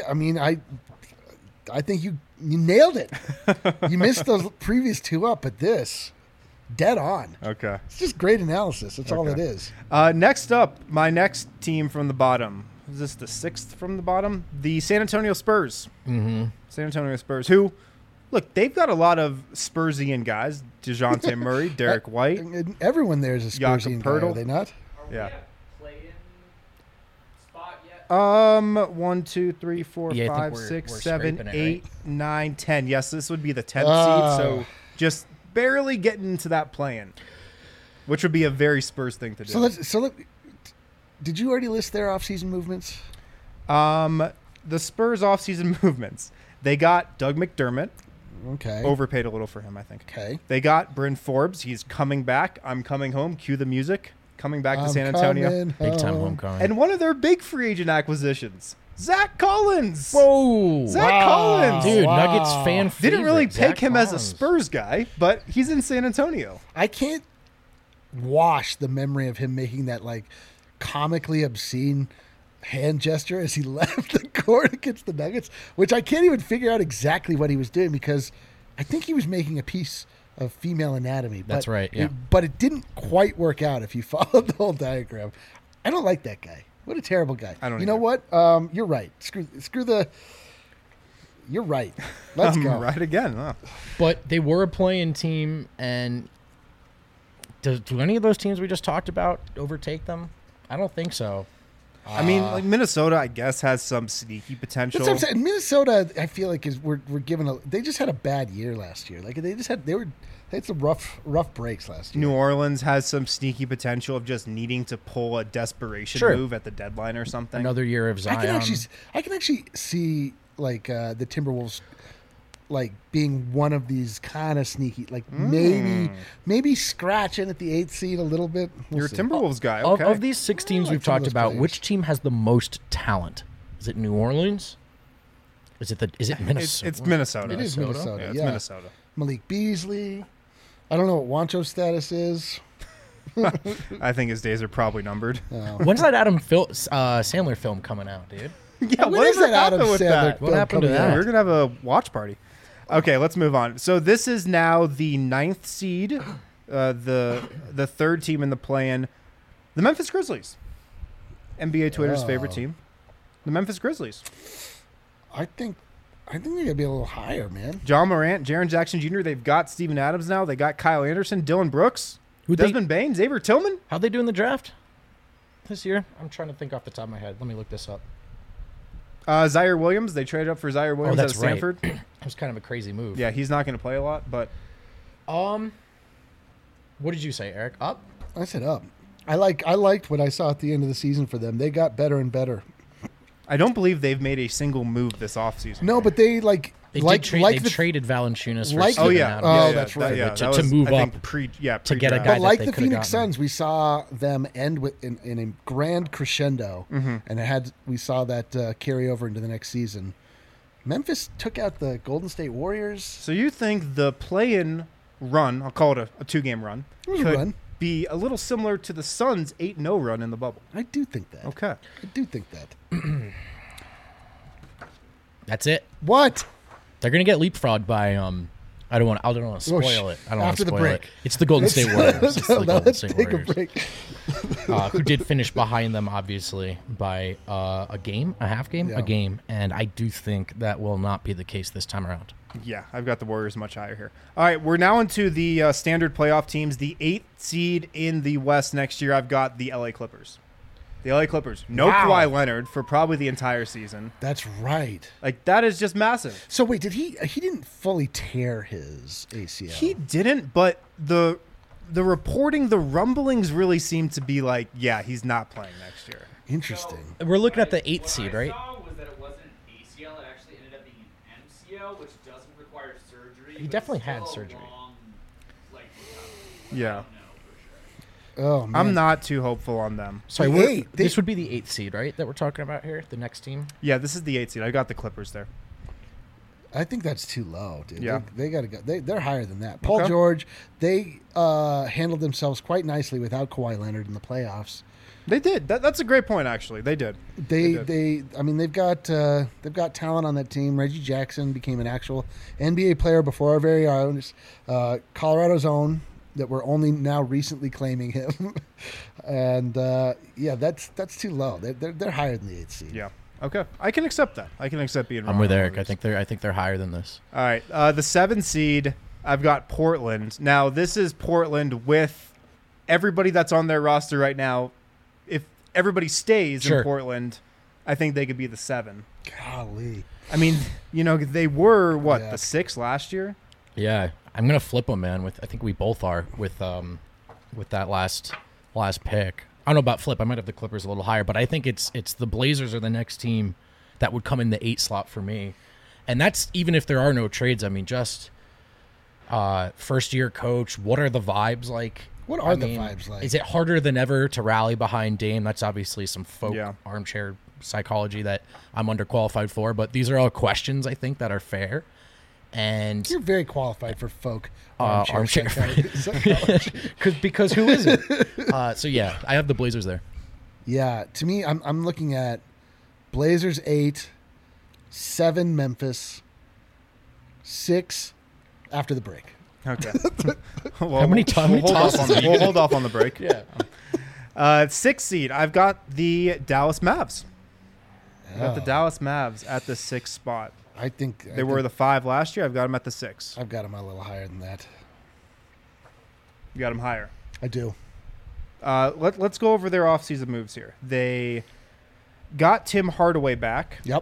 I think you nailed it. You missed those previous two up, but this, dead on. Okay. It's just great analysis. That's all it Okay. is. Next up, my next team from the bottom. Is this the sixth from the bottom? The San Antonio Spurs. Mm-hmm. San Antonio Spurs, who, look, they've got a lot of Spursian guys. DeJounte Murray, Derek White. And everyone there is a Jakob Spursian guy, Poeltl. are they not? Yeah. Play-in spot yet? 1, 2, 3, 4, Yeah, I think 5, we're 6, scraping 7, it, 8, 9, 10. Yes, this would be the 10th Ah. seed. So just barely getting into that play-in, which would be a very Spurs thing to do. Did you already list their offseason movements? The Spurs offseason movements. They got Doug McDermott. Okay. Overpaid a little for him, I think. Okay. They got Bryn Forbes. He's coming back. I'm coming home. Cue the music. Coming back to I'm San Antonio. coming Big time home. homecoming. And one of their big free agent acquisitions, Zach Collins. Whoa. Zach Wow. Collins. Dude, Wow. Nuggets fan favorite. Didn't really Zach pick him as a Collins. Spurs guy, but he's in San Antonio. I can't wash the memory of him making that like comically obscene hand gesture as he left the court against the Nuggets, which I can't even figure out exactly what he was doing because I think he was making a piece of female anatomy. That's right, yeah. But it didn't quite work out if you followed the whole diagram. I don't like that guy. What a terrible guy. I don't You know either. what? You're right. Screw the. You're right. Let's I'm go. right again. Huh. But they were a playing team, and do any of those teams we just talked about overtake them? I don't think so. I mean, like Minnesota, I guess, has some sneaky potential. That's what I'm saying. Minnesota, I feel like we're given a. They just had a bad year last year. Like they had some rough breaks last year. New Orleans has some sneaky potential of just needing to pull a desperation Sure. move at the deadline or something. Another year of Zion. I can actually see like the Timberwolves like being one of these kind of sneaky, like maybe scratching at the 8th seed a little bit. We'll You're a see. Timberwolves guy. Of, Okay. of these six teams like we've some of talked those about, players. which team has the most talent? Is it New Orleans? Is it Minnesota? it's Minnesota. It is Minnesota. Yeah, it's yeah. Minnesota. Malik Beasley. I don't know what Wancho's status is. I think his days are probably numbered. When's that Sandler film coming out, dude? Yeah, When is that Adam happened with Sandler that? What happened to coming that? out? We're gonna have a watch party. Okay, let's move on. So this is now the 9th seed, the third team in the play-in, the Memphis Grizzlies. NBA Twitter's favorite team, the Memphis Grizzlies. I think they're gonna be a little higher, man. John Morant, Jaren Jackson Jr. They've got Steven Adams now. They got Kyle Anderson, Dylan Brooks, Who'd they- Desmond Bain, Xavier Tillman. How'd they do in the draft this year? I'm trying to think off the top of my head. Let me look this up. Zaire Williams. They traded up for Zaire Williams that's out of Stanford. It was kind of a crazy move. Yeah, he's not going to play a lot, but What did you say, Eric? Up? I said up. I liked what I saw at the end of the season for them. They got better and better. I don't believe they've made a single move this offseason. No, but they They the traded Valanciunas for like Steven Oh yeah, Adams. Oh, yeah, that's right. Yeah, To that was, move I think, up to get a pre-draft. guy But like that the they could've Phoenix gotten. Suns, we saw them end in a grand crescendo, and we saw that carry over into the next season. Memphis took out the Golden State Warriors. So you think the play-in run, I'll call it a 2-game run, It was a could run. be a little similar to the Suns' 8-0 run in the bubble? I do think that. Okay. I do think that. That's it. What? They're gonna get leapfrogged by I don't want to spoil sh- it. I don't want after to the spoil break. it. It's the Golden State Warriors. It's the Now Golden let's State take Warriors. a break. Who did finish behind them, obviously, by a half game, Yeah. a game, and I do think that will not be the case this time around. Yeah, I've got the Warriors much higher here. All right, we're now into the standard playoff teams. The 8th seed in the West next year, I've got the LA Clippers. The LA Clippers. No Wow. Kawhi Leonard for probably the entire season. That's right. Like, that is just massive. So wait, did he didn't fully tear his ACL? He didn't, but the reporting, the rumblings really seem to be like, yeah, he's not playing next year. Interesting. We're looking at the 8th seed, right? What I saw was that it wasn't an ACL; it actually ended up being an MCL, which which doesn't require surgery. He but definitely it's had still a surgery. long, like, recovery. Yeah. I don't know for sure. Oh man, I'm not too hopeful on them. Sorry, The this would be the 8th seed, right? That we're talking about here, the next team. Yeah, this is the 8th seed. I got the Clippers there. I think that's too low, dude. Yeah. They got to go. They're higher than that. Paul Okay. George, they handled themselves quite nicely without Kawhi Leonard in the playoffs. They did. That's a great point, actually. They did. I mean, they've got talent on that team. Reggie Jackson became an actual NBA player before our very eyes. Colorado's own, that we're only now recently claiming him, and yeah, that's too low. They're higher than the 8th seed. Yeah. Okay. I can accept that. I can accept being wrong. I'm with on Eric. those. I think they're higher than this. All right. The 7th seed, I've got Portland. Now, this is Portland with everybody that's on their roster right now. If everybody stays Sure. in Portland, I think they could be the 7. Golly. I mean, they were, Yeah. the 6 last year? Yeah, I'm gonna flip them, man. I think we both are with that last pick. I don't know about flip. I might have the Clippers a little higher, but I think it's the Blazers are the next team that would come in the 8 slot for me, and that's even if there are no trades. I mean, just first year coach. What are the vibes like? What are the vibes like? Is it harder than ever to rally behind Dame? That's obviously some folk Yeah. armchair psychology that I'm underqualified for, but these are all questions I think that are fair. And You're very qualified for folk armchair psychology. because who isn't? So yeah, I have the Blazers there. Yeah, to me, I'm looking at Blazers 8, 7 Memphis, 6 after the break. Okay. Well, How many we'll hold off times? we'll hold off on the break. Yeah. 6th seed, I've got the Dallas Mavs. I've got the Oh, Dallas Mavs at the 6th spot. I think They were the 5 last year. I've got them at the 6. I've got them a little higher than that. You got them higher. I do. Let's go over their offseason moves here. They got Tim Hardaway back. Yep.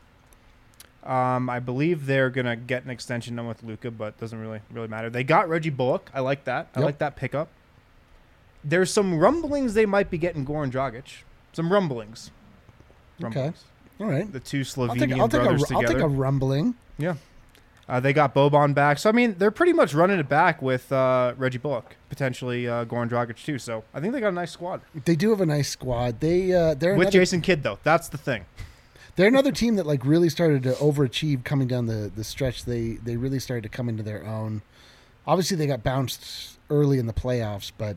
I believe they're gonna get an extension done with Luka, but it doesn't really matter. They got Reggie Bullock. I like that. I Yep. like that pickup. There's some rumblings they might be getting Goran Dragic. Some rumblings. Okay. All right. The two I'll Slovenian brothers I'll together. take a rumbling. Yeah. They got Boban back. So, I mean, they're pretty much running it back with Reggie Bullock, potentially Goran Dragic, too. So, I think they got a nice squad. They do have a nice squad. They're With another, Jason Kidd, though. That's the thing. they're another team that like really started to overachieve coming down the stretch. They really started to come into their own. Obviously, they got bounced early in the playoffs, but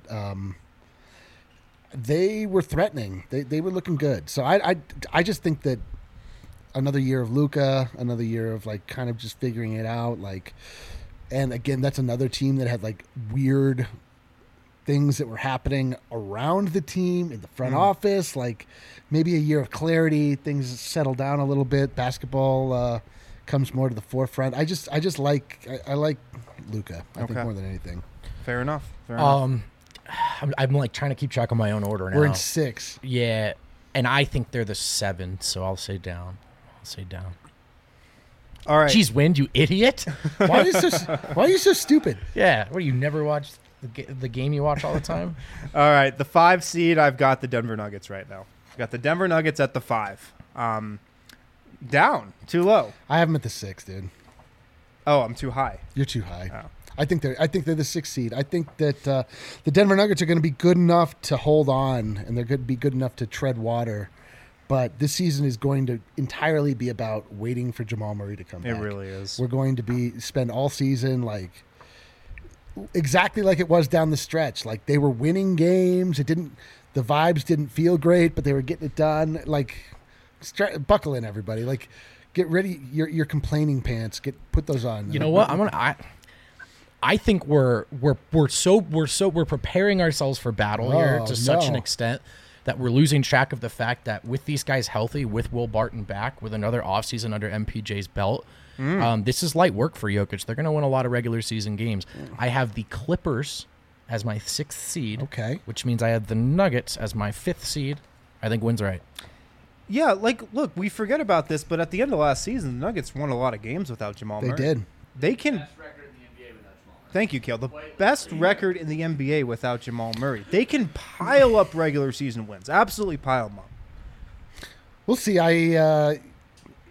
they were threatening. They were looking good. So I just think that another year of Luka, another year of like kind of just figuring it out. Like, and again, that's another team that had like weird things that were happening around the team in the front office. Like maybe a year of clarity, things settle down a little bit. Basketball comes more to the forefront. I like Luka. I think Okay. more than anything. Fair enough. Fair enough. I'm like trying to keep track of my own order now. We're in 6. Yeah, and I think they're the 7, so I'll say down. All right. Jeez, Wind, you idiot! Why are you so stupid? Yeah, what do you never watch the game you watch all the time? All right. The 5 seed, I've got the Denver Nuggets right now. I've got the Denver Nuggets at the 5. Down. Too low. I have them at the 6, dude. Oh, I'm too high. You're too high. Oh. I think they're the 6th seed. I think that the Denver Nuggets are going to be good enough to hold on, and they're going to be good enough to tread water. But this season is going to entirely be about waiting for Jamal Murray to come back. It really is. We're going to spend all season like exactly like it was down the stretch. Like they were winning games. The vibes didn't feel great, but they were getting it done. Like buckle in, everybody. Like get ready. Your complaining pants. Put those on. You know what? I think we're preparing ourselves for battle here Oh, to such an no. extent that we're losing track of the fact that with these guys healthy, with Will Barton back, with another offseason under MPJ's belt, this is light work for Jokic. They're going to win a lot of regular season games. I have the Clippers as my 6th seed, Okay. which means I have the Nuggets as my 5th seed. I think Wynn's right. Yeah, look, we forget about this, but at the end of last season, the Nuggets won a lot of games without Jamal They Murray. did. They can. Best record in the NBA without Jamal Murray. Thank you, Kale. The best record in the NBA without Jamal Murray. They can pile up regular season wins. Absolutely pile them up. We'll see. I'm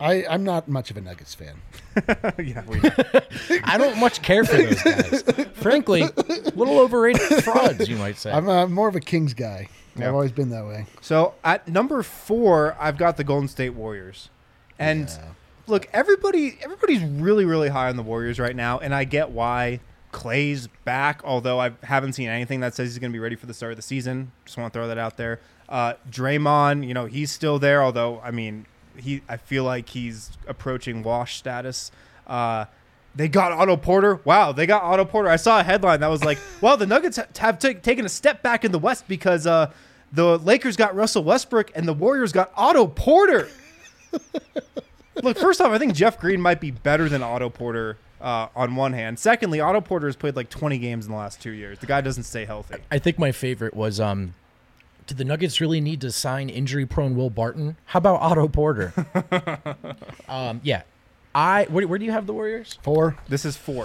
I'm not much of a Nuggets fan. Yeah, we know. I don't much care for those guys. Frankly, a little overrated frauds, you might say. I'm more of a Kings guy. Yeah. I've always been that way. So at number 4, I've got the Golden State Warriors. And look, everybody's really, really high on the Warriors right now, and I get why. Clay's back, although I haven't seen anything that says he's going to be ready for the start of the season. Just want to throw that out there. Draymond, he's still there, although, I mean, I feel like he's approaching wash status. They got Otto Porter. Wow, they got Otto Porter. I saw a headline that was like, well, the Nuggets have taken a step back in the West because the Lakers got Russell Westbrook and the Warriors got Otto Porter. Look, first off, I think Jeff Green might be better than Otto Porter on one hand. Secondly, Otto Porter has played like 20 games in the last 2 years. The guy doesn't stay healthy. I think my favorite was, did the Nuggets really need to sign injury-prone Will Barton? How about Otto Porter? Yeah. Where do you have the Warriors? 4. This is 4.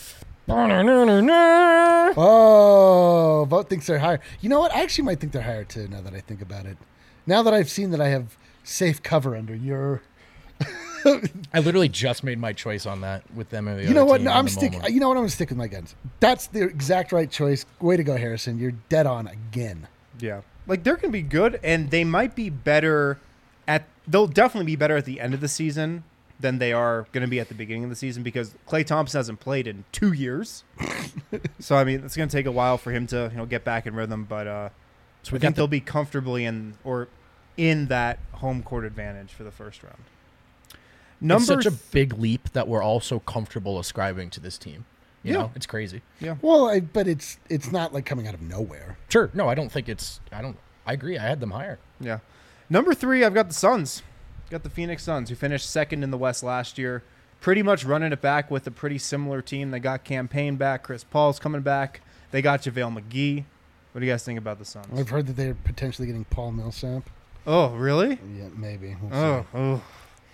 Oh, Vote thinks they're higher. You know what? I actually might think they're higher too. Now that I think about it, now that I've seen that I have safe cover under your. I literally just made my choice on that with them. And the You know other what? team No, in I'm the stick. moment. You know what? I'm gonna stick with my guns. That's the exact right choice. Way to go, Harrison. You're dead on again. Yeah. Like, they're going to be good, and they might be better they'll definitely be better at the end of the season than they are going to be at the beginning of the season because Klay Thompson hasn't played in 2 years. So, I mean, it's going to take a while for him to, get back in rhythm, but So we I got think they'll be comfortably in that home court advantage for the first round. It's such a big leap that we're all so comfortable ascribing to this team. You know, it's crazy. Yeah. Well, but it's not like coming out of nowhere. Sure. No, I don't think I agree. I had them higher. Yeah. Number 3, I've got the Suns. Got the Phoenix Suns, who finished second in the West last year. Pretty much running it back with a pretty similar team. They got Campaign back. Chris Paul's coming back. They got JaVale McGee. What do you guys think about the Suns? I've heard that they're potentially getting Paul Millsap. Oh, really? Yeah, maybe. We'll see. Oh.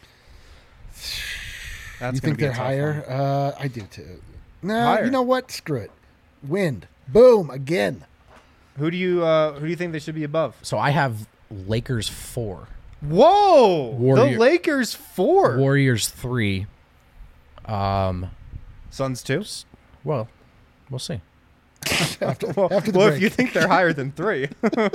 That's You gonna think be a they're tough higher? one. I do too. No, Higher. you know what? Screw it. Wind. Boom. Again. Who do you think they should be above? So I have Lakers 4, Whoa! The Lakers 4. Warriors 3. Suns 2. Well, we'll see. After the Well, break. if you think they're higher than 3.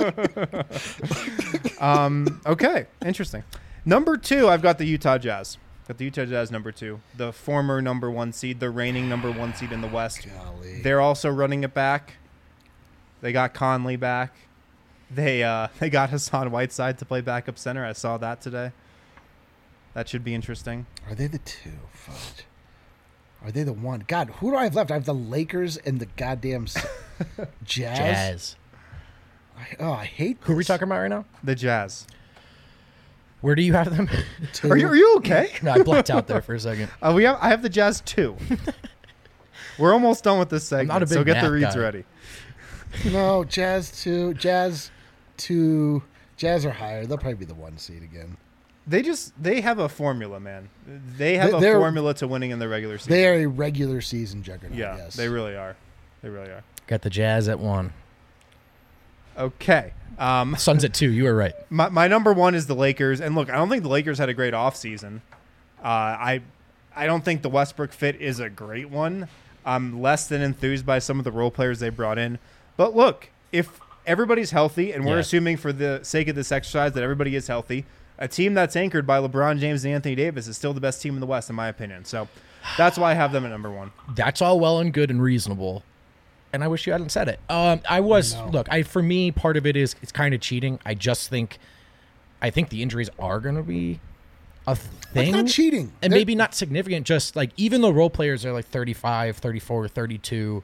Okay, interesting. Number 2, I've got the Utah Jazz. Got the Utah Jazz number 2, the former number 1 seed, the reigning number 1 seed in the West. Golly. They're also running it back. They got Conley back. They got Hassan Whiteside to play backup center. I saw that today. That should be interesting. Are they the 2? Fudge. Are they the 1? God, who do I have left? I have the Lakers and the goddamn Jazz. I hate this. Who are we talking about right now? The Jazz. Where do you have them? 2. Are you okay? No, I blacked out there for a second. I have the Jazz 2. We're almost done with this segment, not a big so get the math reads guy. ready. No, Jazz 2. Jazz 2. Jazz are higher. They'll probably be the 1 seed again. They have a formula, man. They have a They're- formula to winning in the regular season. They are a regular season juggernaut. Yeah, yes. they really are. They really are. Got the Jazz at 1. Okay. Suns at 2. You were right. My number 1 is the Lakers, and look, I don't think the Lakers had a great offseason. I don't think the Westbrook fit is a great one. I'm less than enthused by some of the role players they brought in. But look, if everybody's healthy, and we're Yeah. assuming for the sake of this exercise that everybody is healthy, a team that's anchored by LeBron James and Anthony Davis is still the best team in the West, in my opinion. So that's why I have them at number 1. That's all well and good and reasonable. And I wish you hadn't said it. For me, part of it is it's kind of cheating. I think the injuries are going to be a thing. That's not cheating. And They're- maybe not significant, just like even though role players are like 35, 34, 32,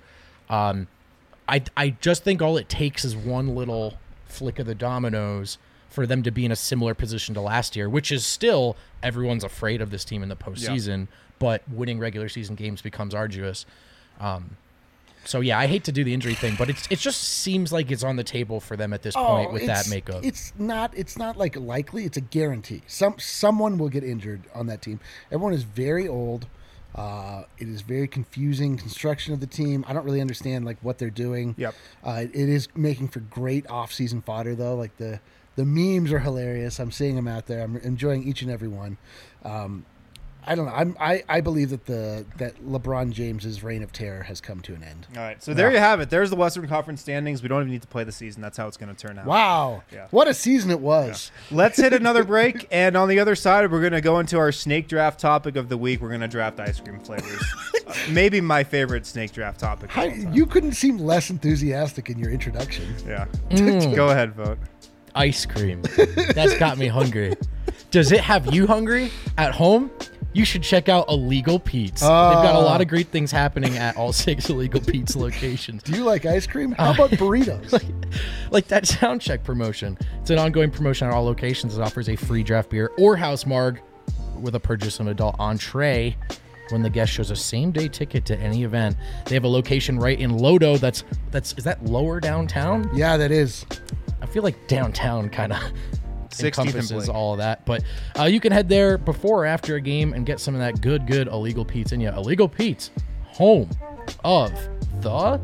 I just think all it takes is one little flick of the dominoes for them to be in a similar position to last year, which is still everyone's afraid of this team in the postseason, but winning regular season games becomes arduous. So yeah, I hate to do the injury thing, but it just seems like it's on the table for them at this point with that makeup. It's not like likely. It's a guarantee. Someone will get injured on that team. Everyone is very old. It is very confusing construction of the team. I don't really understand like what they're doing. Yep. It is making for great off-season fodder though. Like the The memes are hilarious. I'm seeing them out there. I'm enjoying each and every one. I don't know. I believe that that LeBron James's reign of terror has come to an end. All right, so there you have it. There's the Western Conference standings. We don't even need to play the season. That's how it's going to turn out. Wow. Yeah. What a season it was. Yeah. Let's hit another break, and on the other side, we're going to go into our snake draft topic of the week. We're going to draft ice cream flavors. Maybe my favorite snake draft topic. You couldn't seem less enthusiastic in your introduction. Yeah. Go ahead, vote. Ice cream. That's got me hungry. Does it have you hungry at home? You should check out Illegal Pete's. They've got a lot of great things happening at all 6 Illegal Pete's locations. Do you like ice cream? How about burritos? like that sound check promotion. It's an ongoing promotion at all locations that offers a free draft beer or house marg with a purchase of an adult entree when the guest shows a same-day ticket to any event. They have a location right in Lodo. Is that lower downtown? Yeah, that is. I feel like downtown kind of 16th encompasses all of that. But you can head there before or after a game and get some of that good Illegal Pete's in you. Illegal Pete's, home of the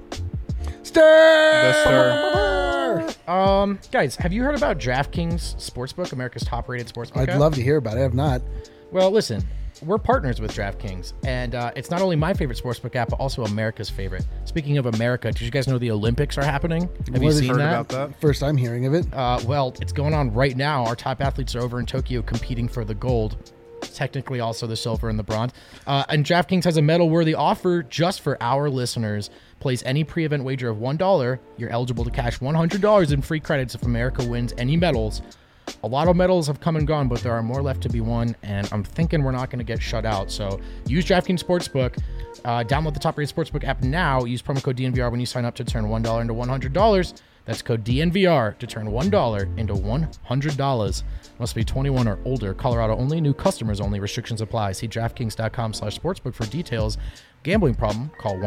Stir. Guys, have you heard about DraftKings Sportsbook, America's top-rated sportsbook I'd app? love to hear about it. I have not. Well, listen, we're partners with DraftKings, and it's not only my favorite sportsbook app, but also America's favorite. Speaking of America, did you guys know the Olympics are happening? Have you seen Heard that? about that? First time hearing of it. Well, it's going on right now. Our top athletes are over in Tokyo competing for the gold. Technically also the silver and the bronze. And DraftKings has a medal-worthy offer just for our listeners. Place any pre-event wager of $1. You're eligible to cash $100 in free credits if America wins any medals. A lot of medals have come and gone, but there are more left to be won, and I'm thinking we're not going to get shut out. So use DraftKings Sportsbook. Download the top-rated Sportsbook app now. Use promo code DNVR when you sign up to turn $1 into $100. That's code DNVR to turn $1 into $100. Must be 21 or older. Colorado only. New customers only. Restrictions apply. See DraftKings.com/sportsbook for details. Gambling problem? Call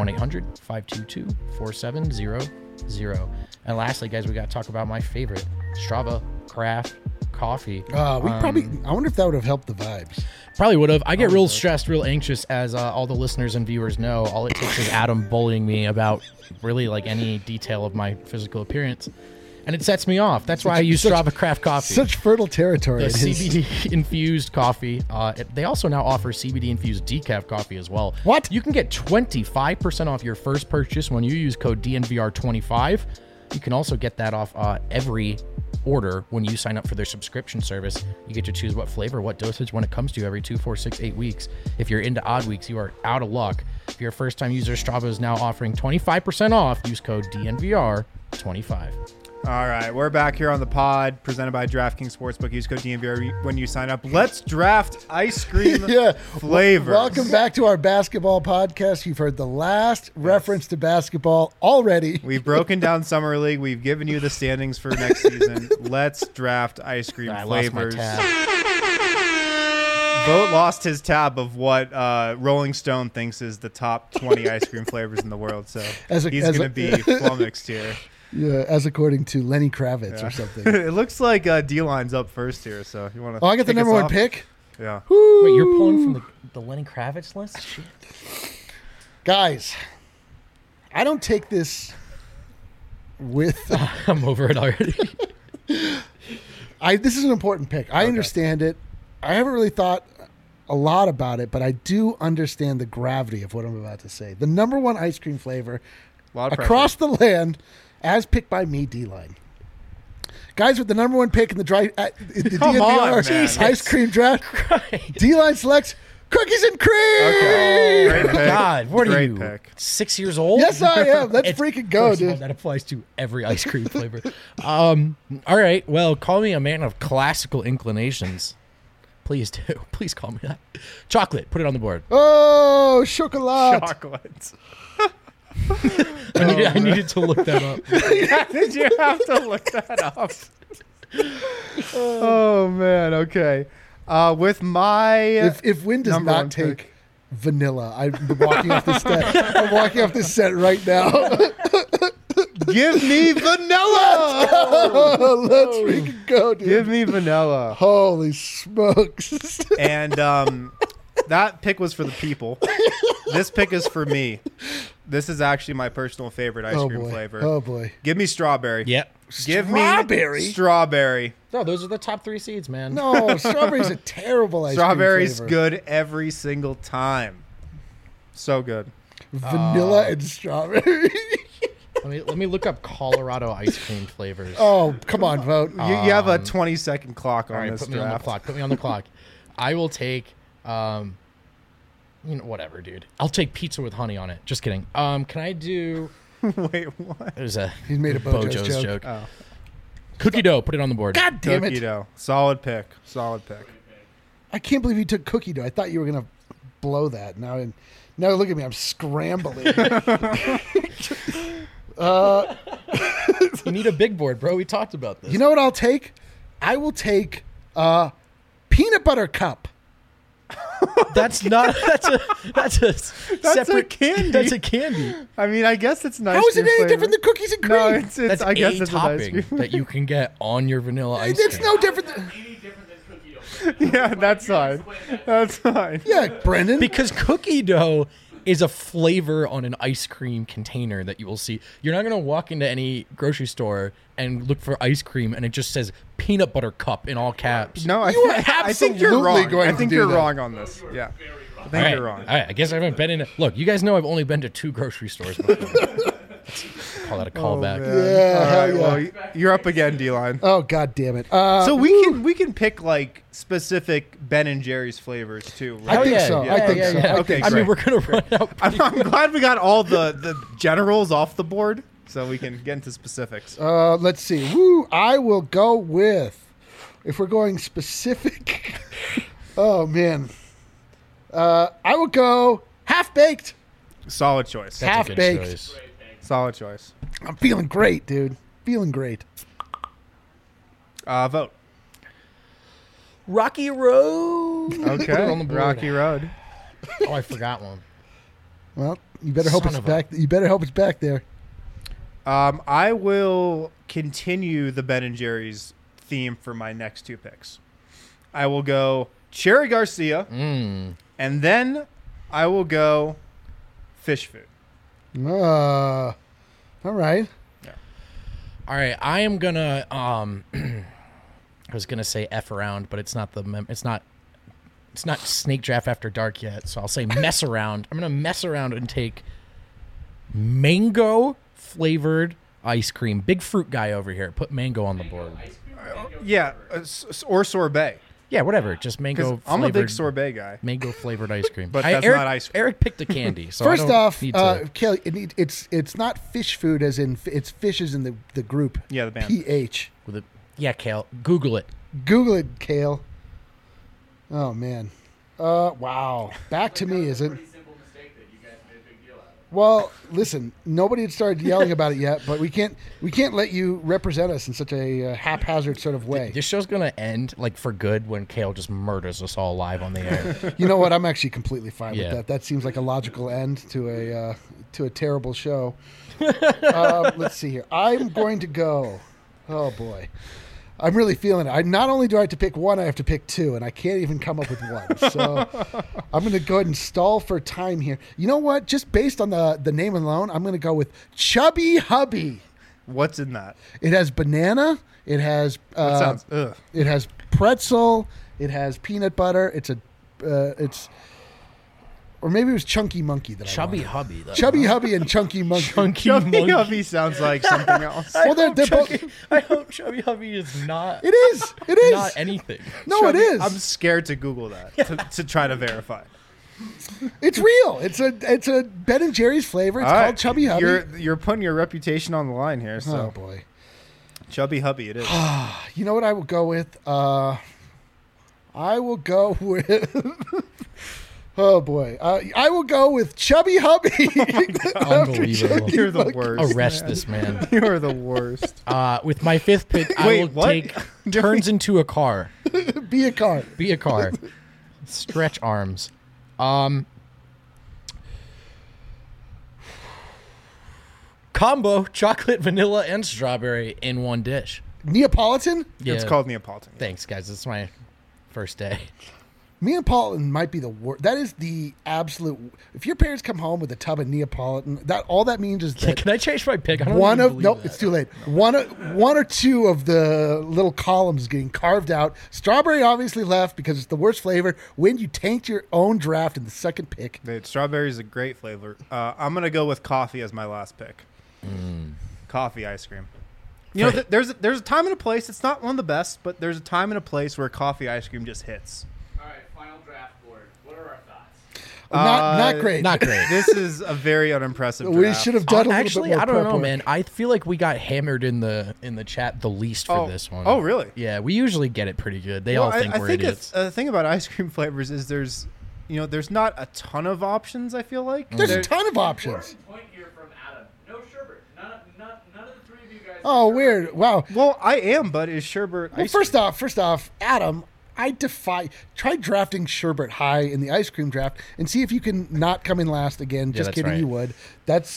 1-800-522-4700. And lastly, guys, we got to talk about my favorite, Strava Craft Coffee. I wonder if that would have helped the vibes. Probably would have. I get real stressed, real anxious, as all the listeners and viewers know. All it takes is Adam bullying me about really like any detail of my physical appearance, and it sets me off. That's why I use Strava Craft Coffee. Such fertile territory. The CBD infused coffee. They also now offer CBD infused decaf coffee as well. What? You can get 25% off your first purchase when you use code DNVR25. You can also get that off every order when you sign up for their subscription service. You get to choose what flavor, what dosage when it comes to you every 2, 4, 6, 8 weeks. If you're into odd weeks, you are out of luck. If you're a first-time user, Strava is now offering 25% off. Use code DNVR25. All right, we're back here on the pod, presented by DraftKings Sportsbook. Use code DNVR when you sign up. Let's draft ice cream flavors. Welcome back to our basketball podcast. You've heard the last reference to basketball already. We've broken down Summer League. We've given you the standings for next season. Let's draft ice cream flavors. Vote lost his tab of what Rolling Stone thinks is the top 20 ice cream flavors in the world. So he's going to be flummoxed here. Yeah, as according to Lenny Kravitz or something. It looks like D-Line's up first here, so you want to. Oh, I got the number one pick. Yeah. Woo! Wait, you're pulling from the Lenny Kravitz list? Shit. Guys, I don't take this with. I'm over it already. This is an important pick. I understand it. I haven't really thought a lot about it, but I do understand the gravity of what I'm about to say. The number one ice cream flavor across the land, as picked by me, D-Line. Guys, with the number one pick in the DNVR ice cream draft, D-Line selects cookies and cream. Okay. Great pick. God, what are you? Pick. 6 years old? Yes, I am. Let's freaking go, First of all, dude. that applies to every ice cream flavor. All right. Well, call me a man of classical inclinations. Please do. Please call me that. Chocolate. Put it on the board. Oh, chocolate. Chocolate. I needed to look that up. Did you have to look that up? Oh, man. Okay. With my If Win does not take vanilla, I'm walking off this set. I'm walking off this set right now. give me vanilla. Let's freaking go, dude. Give me vanilla. Holy smokes. And that pick was for the people. This pick is for me. This is actually my personal favorite ice cream boy. flavor. Oh boy. Give me strawberry. Yep. Give Strawberry? me strawberry. No, those are the top 3 seeds, man. No, strawberry's a terrible ice Strawberry's cream flavor. good every single time. So good. Vanilla and strawberry. Let me look up Colorado ice cream flavors. Oh, come on, vote. You have a 20-second clock on All right, this put me on the draft. clock. Put me on the clock. I will take, whatever, dude. I'll take pizza with honey on it. Just kidding. Can I do? Wait, what? There's a He's made a Bojo's joke. Oh. Cookie dough. Put it on the board. God damn Cookie it. dough. Solid pick. Solid pick. I can't believe you took cookie dough. I thought you were going to blow that. Now look at me. I'm scrambling. You need a big board, bro. We talked about this. You know what I'll take? I will take peanut butter cup. That's not. That's a separate candy. That's a candy. I mean, I guess it's nice. How is it any different than cookies and cream? No, it's That's I guess a it's an ice topping cream. that you can get on your vanilla ice It's cream. no different than... Any different than cookie dough? Yeah, that's fine. That's fine. Yeah, Brendan. Because cookie dough is a flavor on an ice cream container that you will see. You're not going to walk into any grocery store and look for ice cream and it just says peanut butter cup in all caps. No, You are I think you're absolutely wrong. going I to think do you're that. wrong on this. Yeah. I think All right. you're wrong. All right. I guess I haven't been in. Look, you guys know I've only been to 2 grocery stores before. Call that a callback. Yeah, All hell right, yeah. well, you're up again, D-line. Oh, God damn it. So we can pick like specific Ben and Jerry's flavors too, right? I think yeah, so. yeah, I think yeah, so. yeah. Okay, I mean, great. we're going to run out. I'm glad we got all the generals off the board, so we can get into specifics. Let's see. Woo! I will go with, if we're going specific. Oh man. I will go half baked. Solid choice. That's a good half-baked. choice. Solid choice. I'm feeling great, dude. Feeling great. Vote. Rocky Road. Put it on the Okay. board. Rocky Road. Oh, I forgot one. Well, you better hope Son it's of a- back. You better hope it's back there. I will continue the Ben and Jerry's theme for my next 2 picks. I will go Cherry Garcia, and then I will go fish food. All right. All right, I am gonna. I was gonna say F around, but it's not it's not Snake Draft After Dark yet. So I'll say mess around. I'm gonna mess around and take mango flavored ice cream. Big fruit guy over here. Put mango on the board. Yeah, or sorbet. Yeah, whatever. Just mango. Because I'm a big flavored- sorbet guy. Mango flavored ice cream. But that's Eric, not ice cream. Eric picked a candy. So First I don't off, need to- Kelly, it's not fish food as in it's fishes in the group. Yeah, the band. PH. with a, yeah, Kale. Google it. Google it, Kale. Oh man. Wow. Back to me, is it? Pretty simple mistake that you guys made a big deal out of. Well, listen. Nobody had started yelling about it yet, but we can't let you represent us in such a haphazard sort of way. This show's gonna end like for good when Kale just murders us all live on the air. You know what? I'm actually completely fine Yeah. with that. That seems like a logical end to a terrible show. Let's see here. I'm going to go. Oh boy, I'm really feeling it. I not only do I have to pick one, I have to pick 2, and I can't even come up with one. So I'm going to go ahead and stall for time here. You know what? Just based on the name alone, I'm going to go with Chubby Hubby. What's in that? It has banana. It has That sounds. Ugh. it has pretzel. It has peanut butter. Or maybe it was Chunky Monkey that Chubby I wanted. Hubby, though. Chubby Hubby and Chunky Monkey. Chunky Chubby Monkey. Hubby sounds like something else. Well, they're both. I hope Chubby Hubby is not. It is. It is. Not anything. No, it Chubby- is. I'm scared to Google that to try to verify. It's real. It's a Ben and Jerry's flavor. It's All called right. Chubby Hubby. You're putting your reputation on the line here. So Oh boy. Chubby Hubby, it is. You know what I will go with? I will go with. Oh boy. I will go with Chubby Hubby. Unbelievable. You're the worst. Arrest this man. You're the worst. With my 5th pick, I Wait, will what? take turns into a car. Be a car. Be a car. Stretch arms. Combo chocolate, vanilla, and strawberry in one dish. Neapolitan? Yeah. It's called Neapolitan. Thanks, guys. This is my first day. Neapolitan might be the worst. That is the absolute. If your parents come home with a tub of Neapolitan, all that means is that Can I change my pick? I don't one even of believe nope, that. it's too late. One or two of the little columns getting carved out. Strawberry obviously left because it's the worst flavor. When you tanked your own draft in the second pick, Dude, strawberry is a great flavor. I'm gonna go with coffee as my last pick. Coffee ice cream. You know, there's a time and a place. It's not one of the best, but there's a time and a place where coffee ice cream just hits. All right, final draft board. What are our thoughts? not great. Not great. This is a very unimpressive draft. We should have done a little Actually, bit more I don't prep know, work. man. I feel like we got hammered in the chat the least for this one. Oh, really? Yeah, we usually get it pretty good. They all think I we're think idiots. the thing about ice cream flavors is there's not a ton of options. I feel like There's a ton of options. Point here from Adam. No sherbet. None of the three of you guys. Oh, weird. Wow. Well, I am, but is sherbet? Well, first off, Adam, I defy. Try drafting sherbet high in the ice cream draft and see if you can not come in last again. Just that's kidding, right. you would. That's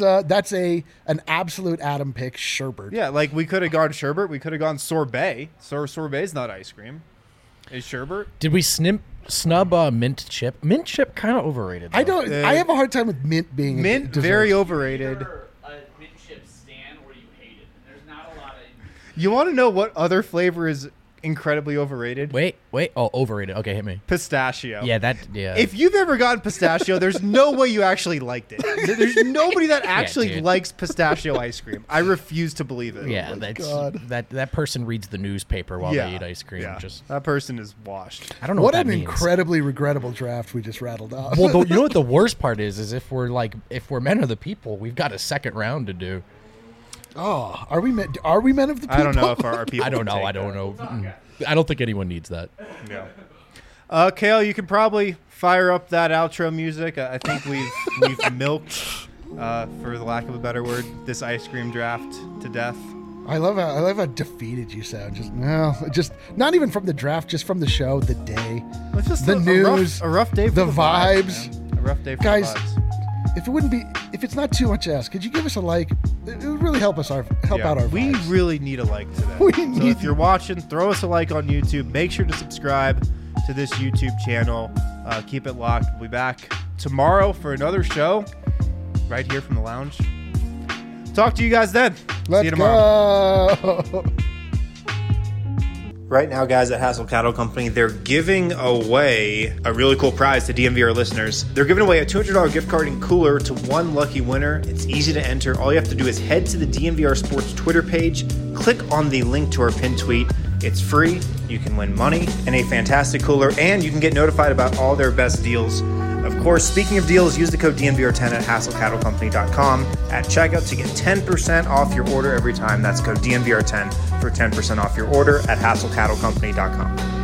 an absolute Adam pick. Sherbet. Yeah, like we could have gone sherbet. We could have gone sorbet. Sorbet's not ice cream. Is sherbet? Did we snub mint chip? Mint chip kind of overrated. I though. don't. I have a hard time with mint being a Mint dessert. very overrated. Either a mint chip stand or you hate it. And there's not a lot of. You want to know what other flavor is incredibly overrated? Wait. Oh, overrated. Okay, hit me. Pistachio. Yeah. If you've ever gotten pistachio, there's no way you actually liked it. There's nobody that actually dude. likes pistachio ice cream. I refuse to believe it. yeah, God. that person reads the newspaper while Yeah. they eat ice cream. Yeah. Just That person is washed. I don't know What what, an that means. incredibly regrettable draft we just rattled off. Well, you know what the worst part is if we're men of the people, we've got a second round to do. Oh, are we men of the people? I don't know if our people. I don't can know. take I don't that. know. I don't think anyone needs that. Yeah. Kale, you can probably fire up that outro music. I think we've milked, for the lack of a better word, this ice cream draft to death. I love how defeated you sound. Just not even from the draft, just from the show, the day, It's just the a news, a rough day for the the vibes. man. A rough day for Guys, the vibes. If it's not too much to ask, could you give us a like? It would really help out our We vibes. really need a like today. We So need- if you're watching, throw us a like on YouTube. Make sure to subscribe to this YouTube channel. Keep it locked. We'll be back tomorrow for another show right here from the lounge. Talk to you guys then. See Let's you tomorrow. go. Right now, guys, at Hassel Cattle Company, they're giving away a really cool prize to DMVR listeners. They're giving away a $200 gift card and cooler to one lucky winner. It's easy to enter. All you have to do is head to the DMVR Sports Twitter page, click on the link to our pinned tweet. It's free. You can win money and a fantastic cooler, and you can get notified about all their best deals. Of course, speaking of deals, use the code DMVR10 at HassleCattleCompany.com at checkout to get 10% off your order every time. That's code DMVR10 for 10% off your order at HassleCattleCompany.com.